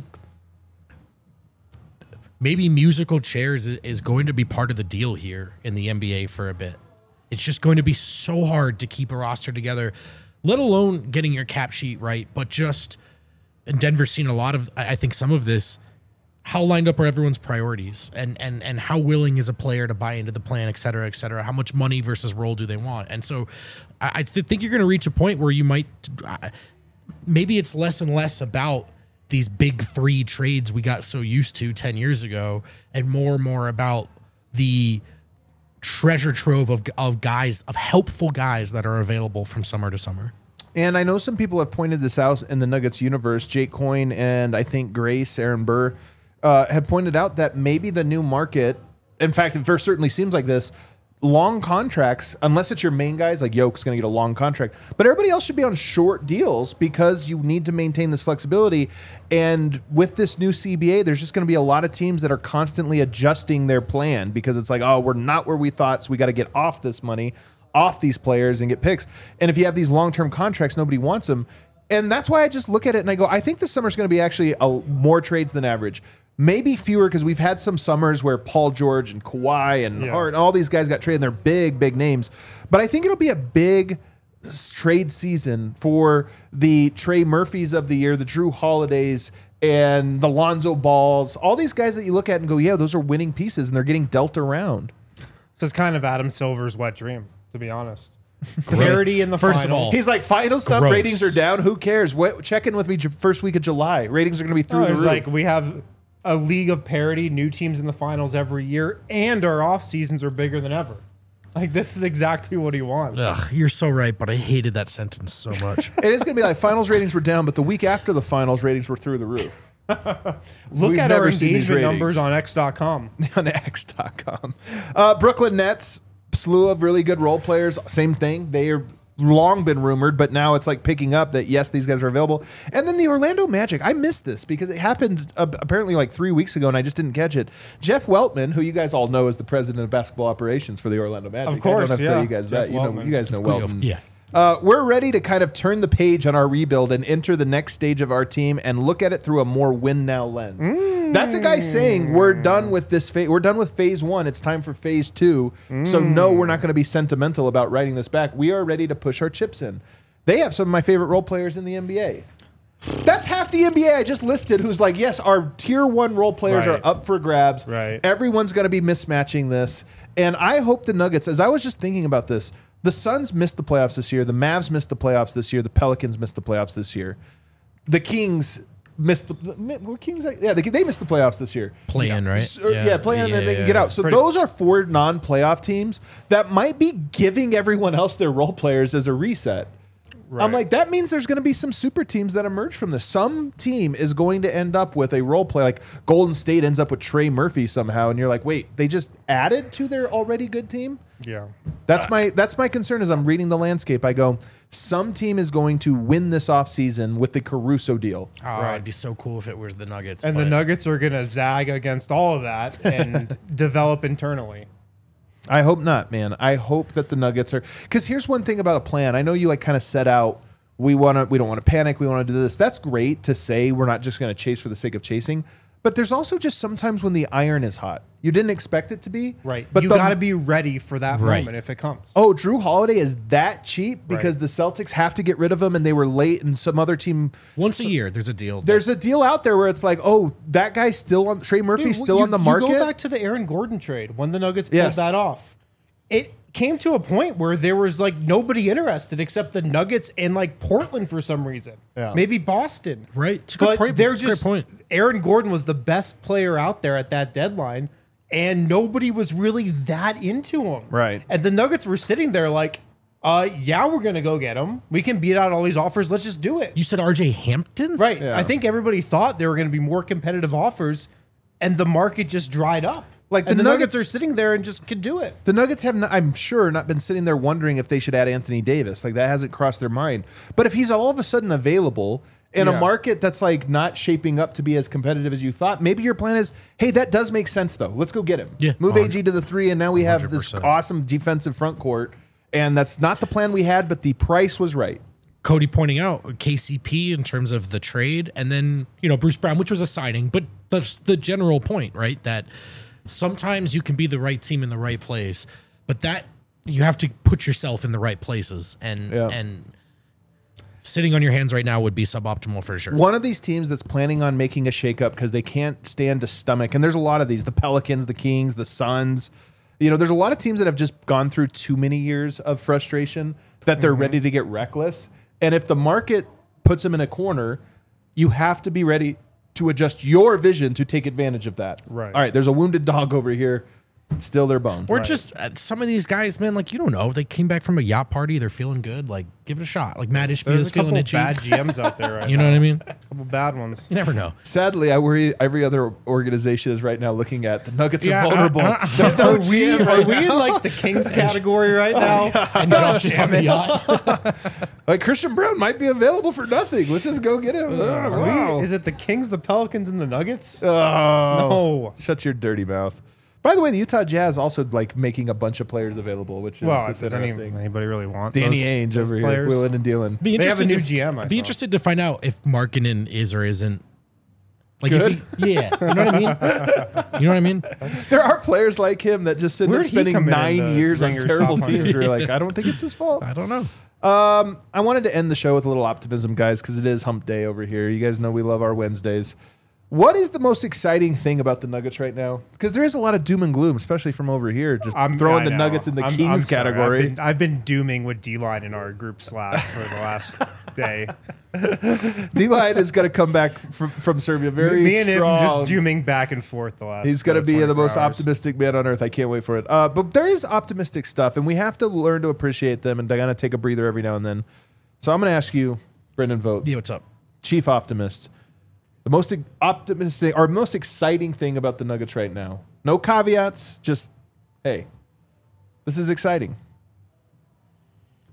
maybe musical chairs is- is going to be part of the deal here in the N B A for a bit. It's just going to be so hard to keep a roster together, let alone getting your cap sheet right, but just. And Denver's seen a lot of, I I think some of this, how lined up are everyone's priorities and and and how willing is a player to buy into the plan, et cetera, et cetera. How much money versus role do they want? And so I, I th- think you're going to reach a point where you might, uh, maybe it's less and less about these big three trades we got so used to ten years ago and more and more about the treasure trove of, of guys, of helpful guys that are available from summer to summer. And I know some people have pointed this out in the Nuggets universe. Jake Coyne and I think Grace, Aaron Burr, uh, have pointed out that maybe the new market, in fact, it first certainly seems like this, long contracts, unless it's your main guys, like Yoke's going to get a long contract, but everybody else should be on short deals because you need to maintain this flexibility. And with this new C B A, there's just going to be a lot of teams that are constantly adjusting their plan because it's like, oh, we're not where we thought, so we got to get off this money, off these players and get picks. And if you have these long-term contracts, nobody wants them. And that's why I just look at it and I go, I think this summer's going to be actually a, more trades than average. Maybe fewer because we've had some summers where Paul George and Kawhi and Yeah. Hart and all these guys got traded and they're big, big names. But I think it'll be a big trade season for the Trey Murphys of the year, the Drew Holidays and the Lonzo Balls, all these guys that you look at and go, yeah, those are winning pieces and they're getting dealt around. This is kind of Adam Silver's wet dream, to be honest. Parity in the First of finals. all, He's like, final stuff, Gross. ratings are down. Who cares? What, check in with me j- first week of July. Ratings are going to be through No, the it's roof. like we have a league of parity, new teams in the finals every year, and our off seasons are bigger than ever. Like, this is exactly what he wants. Ugh, you're so right, but I hated that sentence so much. It is going to be like finals ratings were down, but the week after the finals ratings were through the roof. Look We've at our never seen these engagement ratings. numbers on X dot com. On X dot com. Uh, Brooklyn Nets, slew of really good role players. Same thing. They are long been rumored, but now it's like picking up that yes, these guys are available. And then the Orlando Magic, I missed this because it happened uh, apparently like three weeks ago, and I just didn't catch it. Jeff Weltman, who you guys all know is the president of basketball operations for the Orlando Magic, Of course, I don't have to yeah. tell you guys Jeff that. You know, Weltman. you guys know Weltman. Yeah. Uh, we're ready to kind of turn the page on our rebuild and enter the next stage of our team and look at it through a more win now lens. Mm. That's a guy saying we're done with this phase. We're done with phase one. It's time for phase two. Mm. So no, we're not going to be sentimental about writing this back. We are ready to push our chips in. They have some of my favorite role players in the N B A. That's half the N B A I just listed who's like, yes, our tier one role players Right. are up for grabs. Right. Everyone's going to be mismatching this. And I hope the Nuggets, as I was just thinking about this, the Suns missed the playoffs this year. The Mavs missed the playoffs this year. The Pelicans missed the playoffs this year. The Kings missed the were Kings. Yeah, they, they missed the playoffs this year. Play in, right? So, yeah, play in, Yeah, and they can yeah. get out. So Pretty- those are four non-playoff teams that might be giving everyone else their role players as a reset. I'm Right. like, that means there's going to be some super teams that emerge from this. Some team is going to end up with a role play, like Golden State ends up with Trey Murphy somehow, and you're like, wait, they just added to their already good team? Yeah. That's my that's my concern as I'm reading the landscape. I go, some team is going to win this offseason with the Caruso deal. Oh, Right. it'd be so cool if it was the Nuggets. And the but- Nuggets are going to zag against all of that and develop internally. I hope not, man. I hope that the Nuggets are, because here's one thing about a plan. I know you like kind of set out, we want to, we don't want to panic. We want to do this. That's great to say. We're not just going to chase for the sake of chasing. But there's also just sometimes when the iron is hot. You didn't expect it to be. Right. But you the- got to be ready for that Right. moment if it comes. Oh, Drew Holiday is that cheap because Right. the Celtics have to get rid of him and they were late and some other team. once a year, there's a deal. There's a deal out there where it's like, oh, that guy's still on, Trey Murphy's Dude, still you- on the market. You go back to the Aaron Gordon trade when the Nuggets pulled Yes. that off. It came to a point where there was like nobody interested except the Nuggets and like Portland for some reason. Yeah. Maybe Boston. Right. It's a good But point. they're Great just point. Aaron Gordon was the best player out there at that deadline, and nobody was really that into him. Right. And the Nuggets were sitting there like, uh, yeah, we're gonna go get him. We can beat out all these offers. Let's just do it. You said R J Hampton? Right. Yeah. I think everybody thought there were going to be more competitive offers, and the market just dried up. Like, and the the, Nuggets, Nuggets- are sitting there and just could do it. The Nuggets have, not, I'm sure, not been sitting there wondering if they should add Anthony Davis. Like, that hasn't crossed their mind. But if he's all of a sudden available in a Yeah. market that's like not shaping up to be as competitive as you thought, maybe your plan is, hey, that does make sense though. Let's go get him. Yeah. Move A G to the three, and now we have this one hundred percent. awesome defensive front court. And that's not the plan we had, but the price was right. Cody pointing out K C P in terms of the trade, and then you know Bruce Brown, which was a signing, but that's the general point, right? That sometimes you can be the right team in the right place, but that you have to put yourself in the right places, and Yeah. and sitting on your hands right now would be suboptimal for sure. One of these teams that's planning on making a shakeup because they can't stand to stomach, and there's a lot of these, the Pelicans, the Kings, the Suns. You know, there's a lot of teams that have just gone through too many years of frustration that they're ready to get reckless. And if the market puts them in a corner, you have to be ready to adjust your vision to take advantage of that. Right. All right, there's a wounded dog over here. Still their bone. Or just uh, some of these guys, man, like you don't know. They came back from a yacht party. They're feeling good. Like, give it a shot. Like Matt Ishbia There's is a couple feeling itchy. bad G Ms out there right You know now. what I mean? A couple bad ones. You never know. Sadly, I worry every other organization is right now looking at the Nuggets Yeah, are vulnerable. uh, uh, There's no Are we, G M are right we now. in like the Kings category right now? And Josh is on the yacht. Like Christian Brown might be available for nothing. Let's just go get him. Are we- Wow. Is it the Kings, the Pelicans, and the Nuggets? Oh, No. Shut your dirty mouth. By the way, the Utah Jazz also like making a bunch of players available, which is Well, just does any, interesting. anybody really want Danny those, Ainge those over players? here, wheeling and dealing. Be They have a interested new to- G M, I Be saw. interested to find out if Markkinen is or isn't. Like, Good? if he, yeah, you know what I mean. You know what I mean. There are players like him that just end Where'd up he spending come in nine the years on Ringers terrible top one teams. hundred? You're like, I don't think it's his fault. I don't know. Um, I wanted to end the show with a little optimism, guys, because it is Hump Day over here. You guys know we love our Wednesdays. What is the most exciting thing about the Nuggets right now? Because there is a lot of doom and gloom, especially from over here. Just throwing I the know. Nuggets in the I'm- Kings I'm sorry. category. I've been, I've been dooming with D-Line in our group Slack for the last day. D-Line is going to come back from, from Serbia very Me and strong. him just dooming back and forth the last. He's going to uh, be the twenty-four most hours. optimistic man on earth. I can't wait for it. Uh, but there is optimistic stuff, and we have to learn to appreciate them and kind of take a breather every now and then. So I'm going to ask you, Brendan Vogt, Yeah, what's up? chief optimist, the most optimistic or most exciting thing about the Nuggets right now. No caveats, just, hey, this is exciting.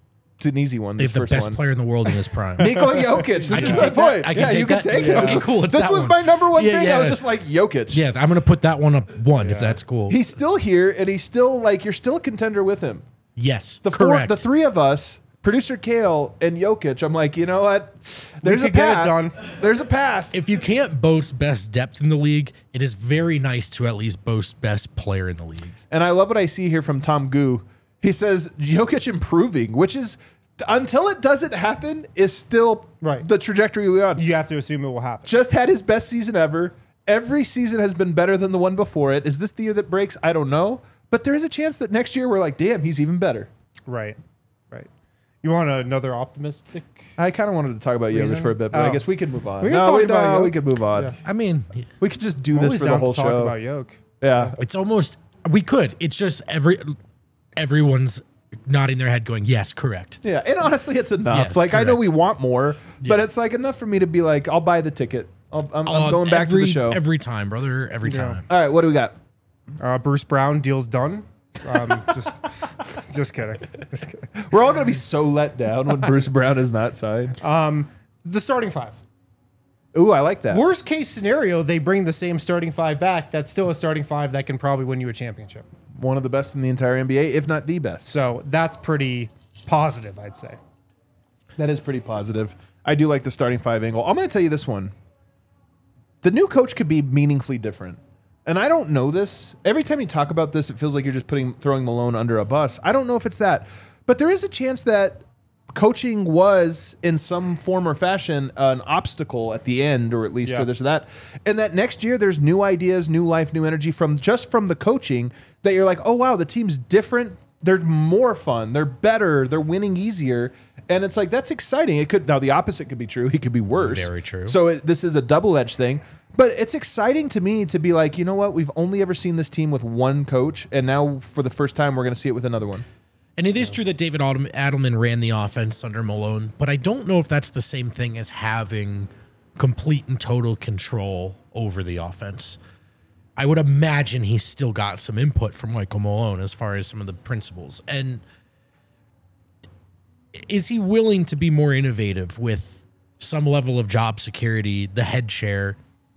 It's an easy one. They This have the first best one. player in the world in his prime. Nikola Jokic. This I is can my take that. point. I can yeah, take you can that. take Yeah. it. Okay, cool. It's This that was one. my number one Yeah, thing. yeah. I was just like Jokic. Yeah, I'm gonna put that one up one if that's cool. He's still here, and he's still like you're still a contender with him. yes, The four, correct. the three of us, producer Kale and Jokic. I'm like, you know what? There's a could get it path. done. There's a path. If you can't boast best depth in the league, it is very nice to at least boast best player in the league. And I love what I see here from Tom Gu. He says Jokic improving, which is until it doesn't happen, is still Right. the trajectory we're on. You have to assume it will happen. Just had his best season ever. Every season has been better than the one before it. Is this the year that breaks? I don't know. But there is a chance that next year we're like, damn, he's even better. Right. Right. You want another optimistic? I kind of wanted to talk about Jokic Reason? for a bit, but I Oh. guess we can move on. We can no, talk we, about no, Jokic. we could move on. Yeah. I mean, We could just do this Always for the down whole to talk show. about Yoke. Yeah. it's almost we could. It's just every everyone's nodding their head, going, "Yes, correct." Yeah, and honestly, it's enough. Yes, like I know correct. we want more, but Yeah. it's like enough for me to be like, I'll buy the ticket. I'll, I'm, I'm Uh, going back to every- the show. every time, brother. Every Yeah. time. All right, what do we got? Uh, Bruce Brown deal's done. Um, just, just kidding. Just kidding. We're all going to be so let down when Bruce Brown is not signed. Um, the starting five. Ooh, I like that. Worst case scenario, they bring the same starting five back. That's still a starting five that can probably win you a championship. One of the best in the entire N B A, if not the best. So that's pretty positive, I'd say. That is pretty positive. I do like the starting five angle. I'm going to tell you this one. The new coach could be meaningfully different. And I don't know this. Every time you talk about this, it feels like you're just putting throwing Malone under a bus. I don't know if it's that. But there is a chance that coaching was, in some form or fashion, an obstacle at the end, or at least Yeah. or this or that. And that next year, there's new ideas, new life, new energy from just from the coaching that you're like, oh, wow, the team's different. They're more fun. They're better. They're winning easier. And it's like, that's exciting. It could, now the opposite could be true. He could be worse. Very true. So it, this is a double-edged thing. But it's exciting to me to be like, you know what? We've only ever seen this team with one coach. And now for the first time, we're going to see it with another one. And it is true that David Adel- Adelman ran the offense under Malone, but I don't know if that's the same thing as having complete and total control over the offense. I would imagine he's still got some input from Michael Malone as far as some of the principles. And is he willing to be more innovative with some level of job security, the head chair?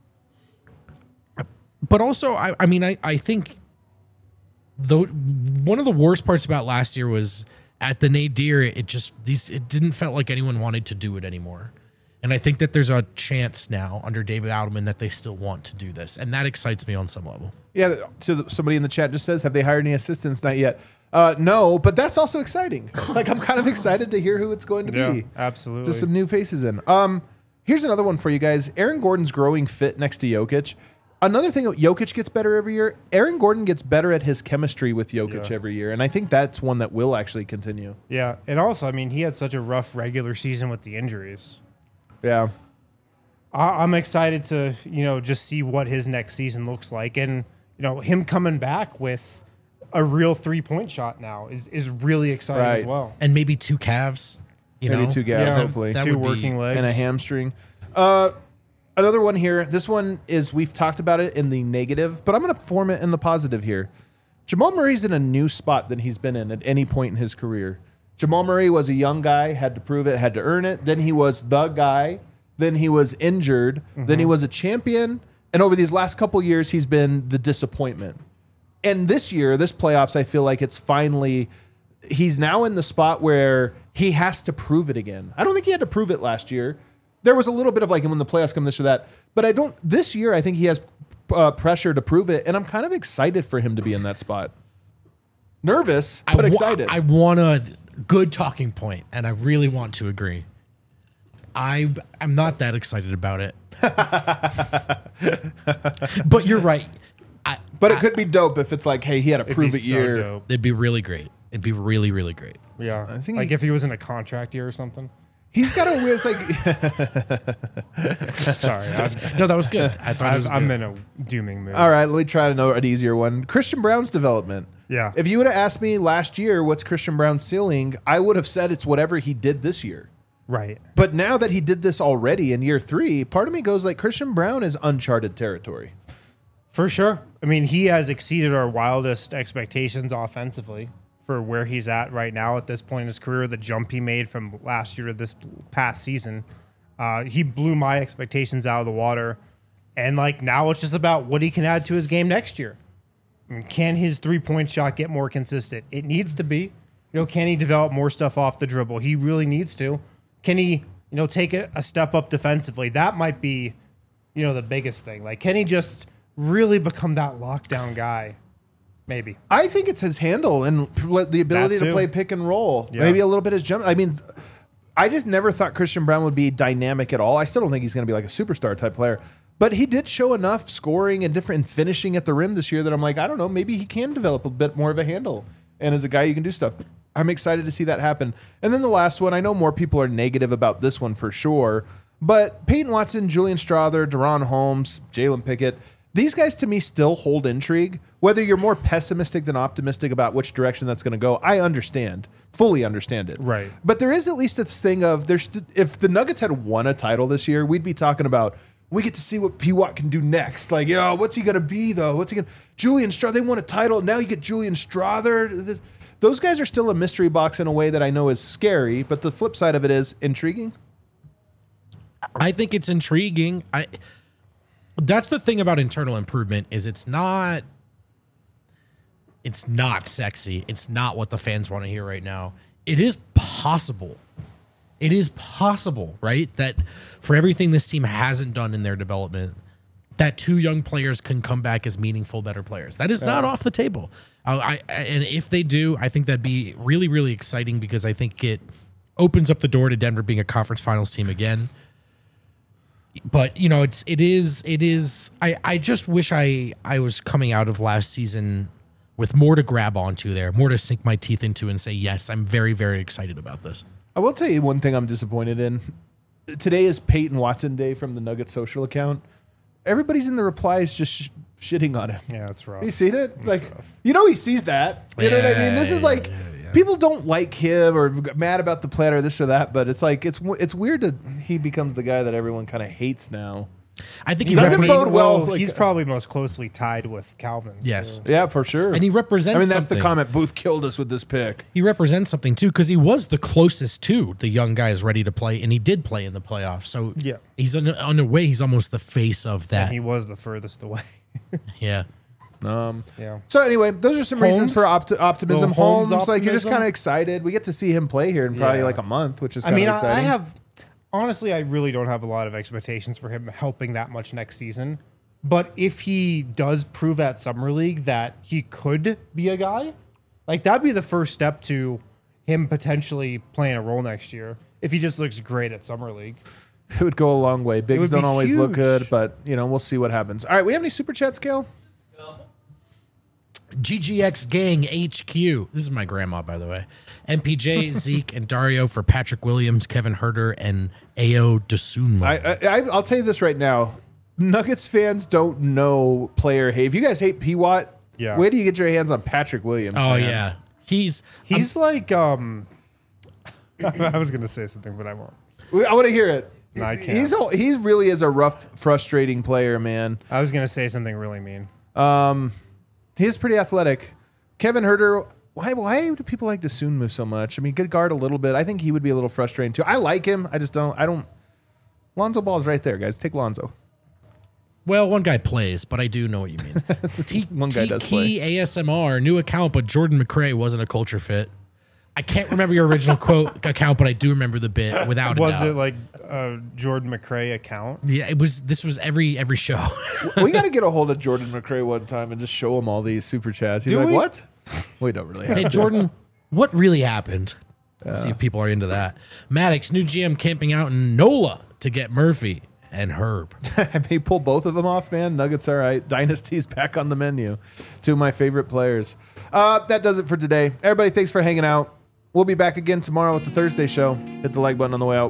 But also, I, I mean, I, I think the one of the worst parts about last year was at the nadir, it just these it didn't felt like anyone wanted to do it anymore. And I think that there's a chance now under David Adelman that they still want to do this, and that excites me on some level. Yeah, so the- somebody in the chat just says, have they hired any assistants? Not yet. Uh, no, but that's also exciting. Like, I'm kind of excited to hear who it's going to be. absolutely. Just some new faces in. Um, here's another one for you guys. Aaron Gordon's growing fit next to Jokic. Another thing, Jokic gets better every year. Aaron Gordon gets better at his chemistry with Jokic Yeah. every year, and I think that's one that will actually continue. Yeah, and also, I mean, he had such a rough regular season with the injuries. Yeah. I- I'm excited to, you know, just see what his next season looks like, and you know, him coming back with a real three point shot now is is really exciting as Right. well. And maybe two calves, you Maybe know, two guys, Yeah, hopefully. that two would be- working legs And a hamstring. Uh, another one here. This one is, we've talked about it in the negative, but I'm going to form it in the positive here. Jamal Murray's in a new spot than he's been in at any point in his career. Jamal Murray was a young guy, had to prove it, had to earn it. Then he was the guy. Then he was injured. Then he was a champion. And over these last couple years, he's been the disappointment. And this year, this playoffs, I feel like it's finally, he's now in the spot where he has to prove it again. I don't think he had to prove it last year. There was a little bit of like when the playoffs come this or that, but I don't, this year, I think he has uh, pressure to prove it. And I'm kind of excited for him to be in that spot. Nervous, but I wa- excited. I want a good talking point, and I really want to agree. I I'm not that excited about it. But you're right. I, but it could be dope if it's like, hey, he had a It'd prove be it so year. dope. it'd be really great. It'd be really, really great. Yeah, I think like he- if he was in a contract year or something. He's got a weird, it's like, Sorry, I'm, No, that was good. I thought it was I'm, good. I'm in a dooming mood. all right, let me try to know an easier one. Christian Brown's development. Yeah. If you would have asked me last year, what's Christian Brown's ceiling, I would have said it's whatever he did this year. Right. But now that he did this already in year three, part of me goes like, Christian Brown is uncharted territory. For sure. I mean, he has exceeded our wildest expectations offensively, for where he's at right now at this point in his career, the jump he made from last year to this past season. Uh, he blew my expectations out of the water. And like now it's just about what he can add to his game next year. I mean, can his three-point shot get more consistent? It needs to be. You know, can he develop more stuff off the dribble? He really needs to. Can he, you know, take a, a step up defensively? That might be, you know, the biggest thing. Like, can he just really become that lockdown guy? Maybe. I think it's his handle and the ability to play pick and roll. Yeah. Maybe a little bit his jump. I mean, I just never thought Christian Braun would be dynamic at all. I still don't think he's going to be like a superstar type player. But he did show enough scoring and different finishing at the rim this year that I'm like, I don't know, maybe he can develop a bit more of a handle. And as a guy, you can do stuff. I'm excited to see that happen. And then the last one, I know more people are negative about this one for sure. But Peyton Watson, Julian Strawther, De'Ron Holmes, Jalen Pickett, these guys to me still hold intrigue. Whether you're more pessimistic than optimistic about which direction that's going to go, I understand, fully understand it. Right. But there is at least this thing of there's if the Nuggets had won a title this year, we'd be talking about we get to see what P. Watt can do next. Like, yo, what's he going to be though? What's he going? Julian Strawther, they won a title. Now you get Julian Strawther. Those guys are still a mystery box in a way that I know is scary. But the flip side of it is intriguing. I think it's intriguing. I. That's the thing about internal improvement is it's not it's not sexy. It's not what the fans want to hear right now. It is possible. It is possible, right? That for everything this team hasn't done in their development, that two young players can come back as meaningful, better players. That is yeah. not off the table. Uh, I, I and if they do, I think that'd be really, really exciting because I think it opens up the door to Denver being a conference finals team again. But you know, it's it is it is. I, I just wish I I was coming out of last season with more to grab onto there, more to sink my teeth into and say yes, I'm very very excited about this. I will tell you one thing I'm disappointed in. Today is Peyton Watson Day from the Nuggets social account. Everybody's in the replies just sh- shitting on him. Yeah, that's rough. You seen it? That's like rough. You know he sees that. You yeah, know what I mean? This is like. Yeah, yeah. People don't like him or mad about the plan or this or that, but it's like it's it's weird that he becomes the guy that everyone kind of hates now. I think he he doesn't repre- bode well. well like, he's probably most closely tied with Calvin. Yes. So. Yeah, for sure. And he represents I mean, that's something. the comment. Booth killed us with this pick. He represents something too because he was the closest to the young guys ready to play, and he did play in the playoffs. So yeah, he's on, on a way. He's almost the face of that. And he was the furthest away. yeah. Um, yeah. So anyway, those are some Holmes? reasons for opti- optimism. Little Holmes Holmes, like you're just optimism? kind of excited. We get to see him play here in probably Yeah. like a month, which is I kind mean, of I, exciting. I have honestly, I really don't have a lot of expectations for him helping that much next season. But if he does prove at Summer League that he could be a guy, like that'd be the first step to him potentially playing a role next year. If he just looks great at Summer League, It would go a long way. Bigs would don't be always look huge. good, but you know we'll see what happens. All right, we have any super chats, Kale? G G X Gang H Q. This is my grandma, by the way. M P J, Zeke, and Dario for Patrick Williams, Kevin Herter, and Ayo Dosunmu. I, I I'll tell you this right now. Nuggets fans don't know player hate. If you guys hate P. Watt, Yeah. where do you get your hands on Patrick Williams? oh man? yeah, he's he's like um. I was gonna say something, but I won't. I want to hear it. No, I can't. He's a, he really is a rough, frustrating player, man. I was gonna say something really mean. Um, he's pretty athletic. Kevin Herter. Why why do people like Dosunmu so much? I mean, good guard a little bit. I think he would be a little frustrating too. I like him. I just don't. I don't. Lonzo Ball is right there, guys. Take Lonzo. well, one guy plays, but I do know what you mean. T- One guy does T- A S M R new account, but Jordan McRae wasn't a culture fit. I can't remember your original quote account, but I do remember the bit without a Was doubt. it like a Jordan McRae account? Yeah, it was. This was every every show. We got to get a hold of Jordan McRae one time and just show him all these super chats. He's Do like, we? what? We don't really have Hey to. Jordan, what really happened? Let's see if people are into that. Maddox, new G M camping out in NOLA to get Murphy and Herb. I may pull both of them off, man. Nuggets, all right. Dynasty's back on the menu. Two of my favorite players. Uh, that does it for today. Everybody, thanks for hanging out. We'll be back again tomorrow with the Thursday show. Hit the like button on the way out.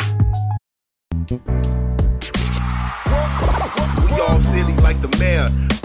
We all silly like the mayor.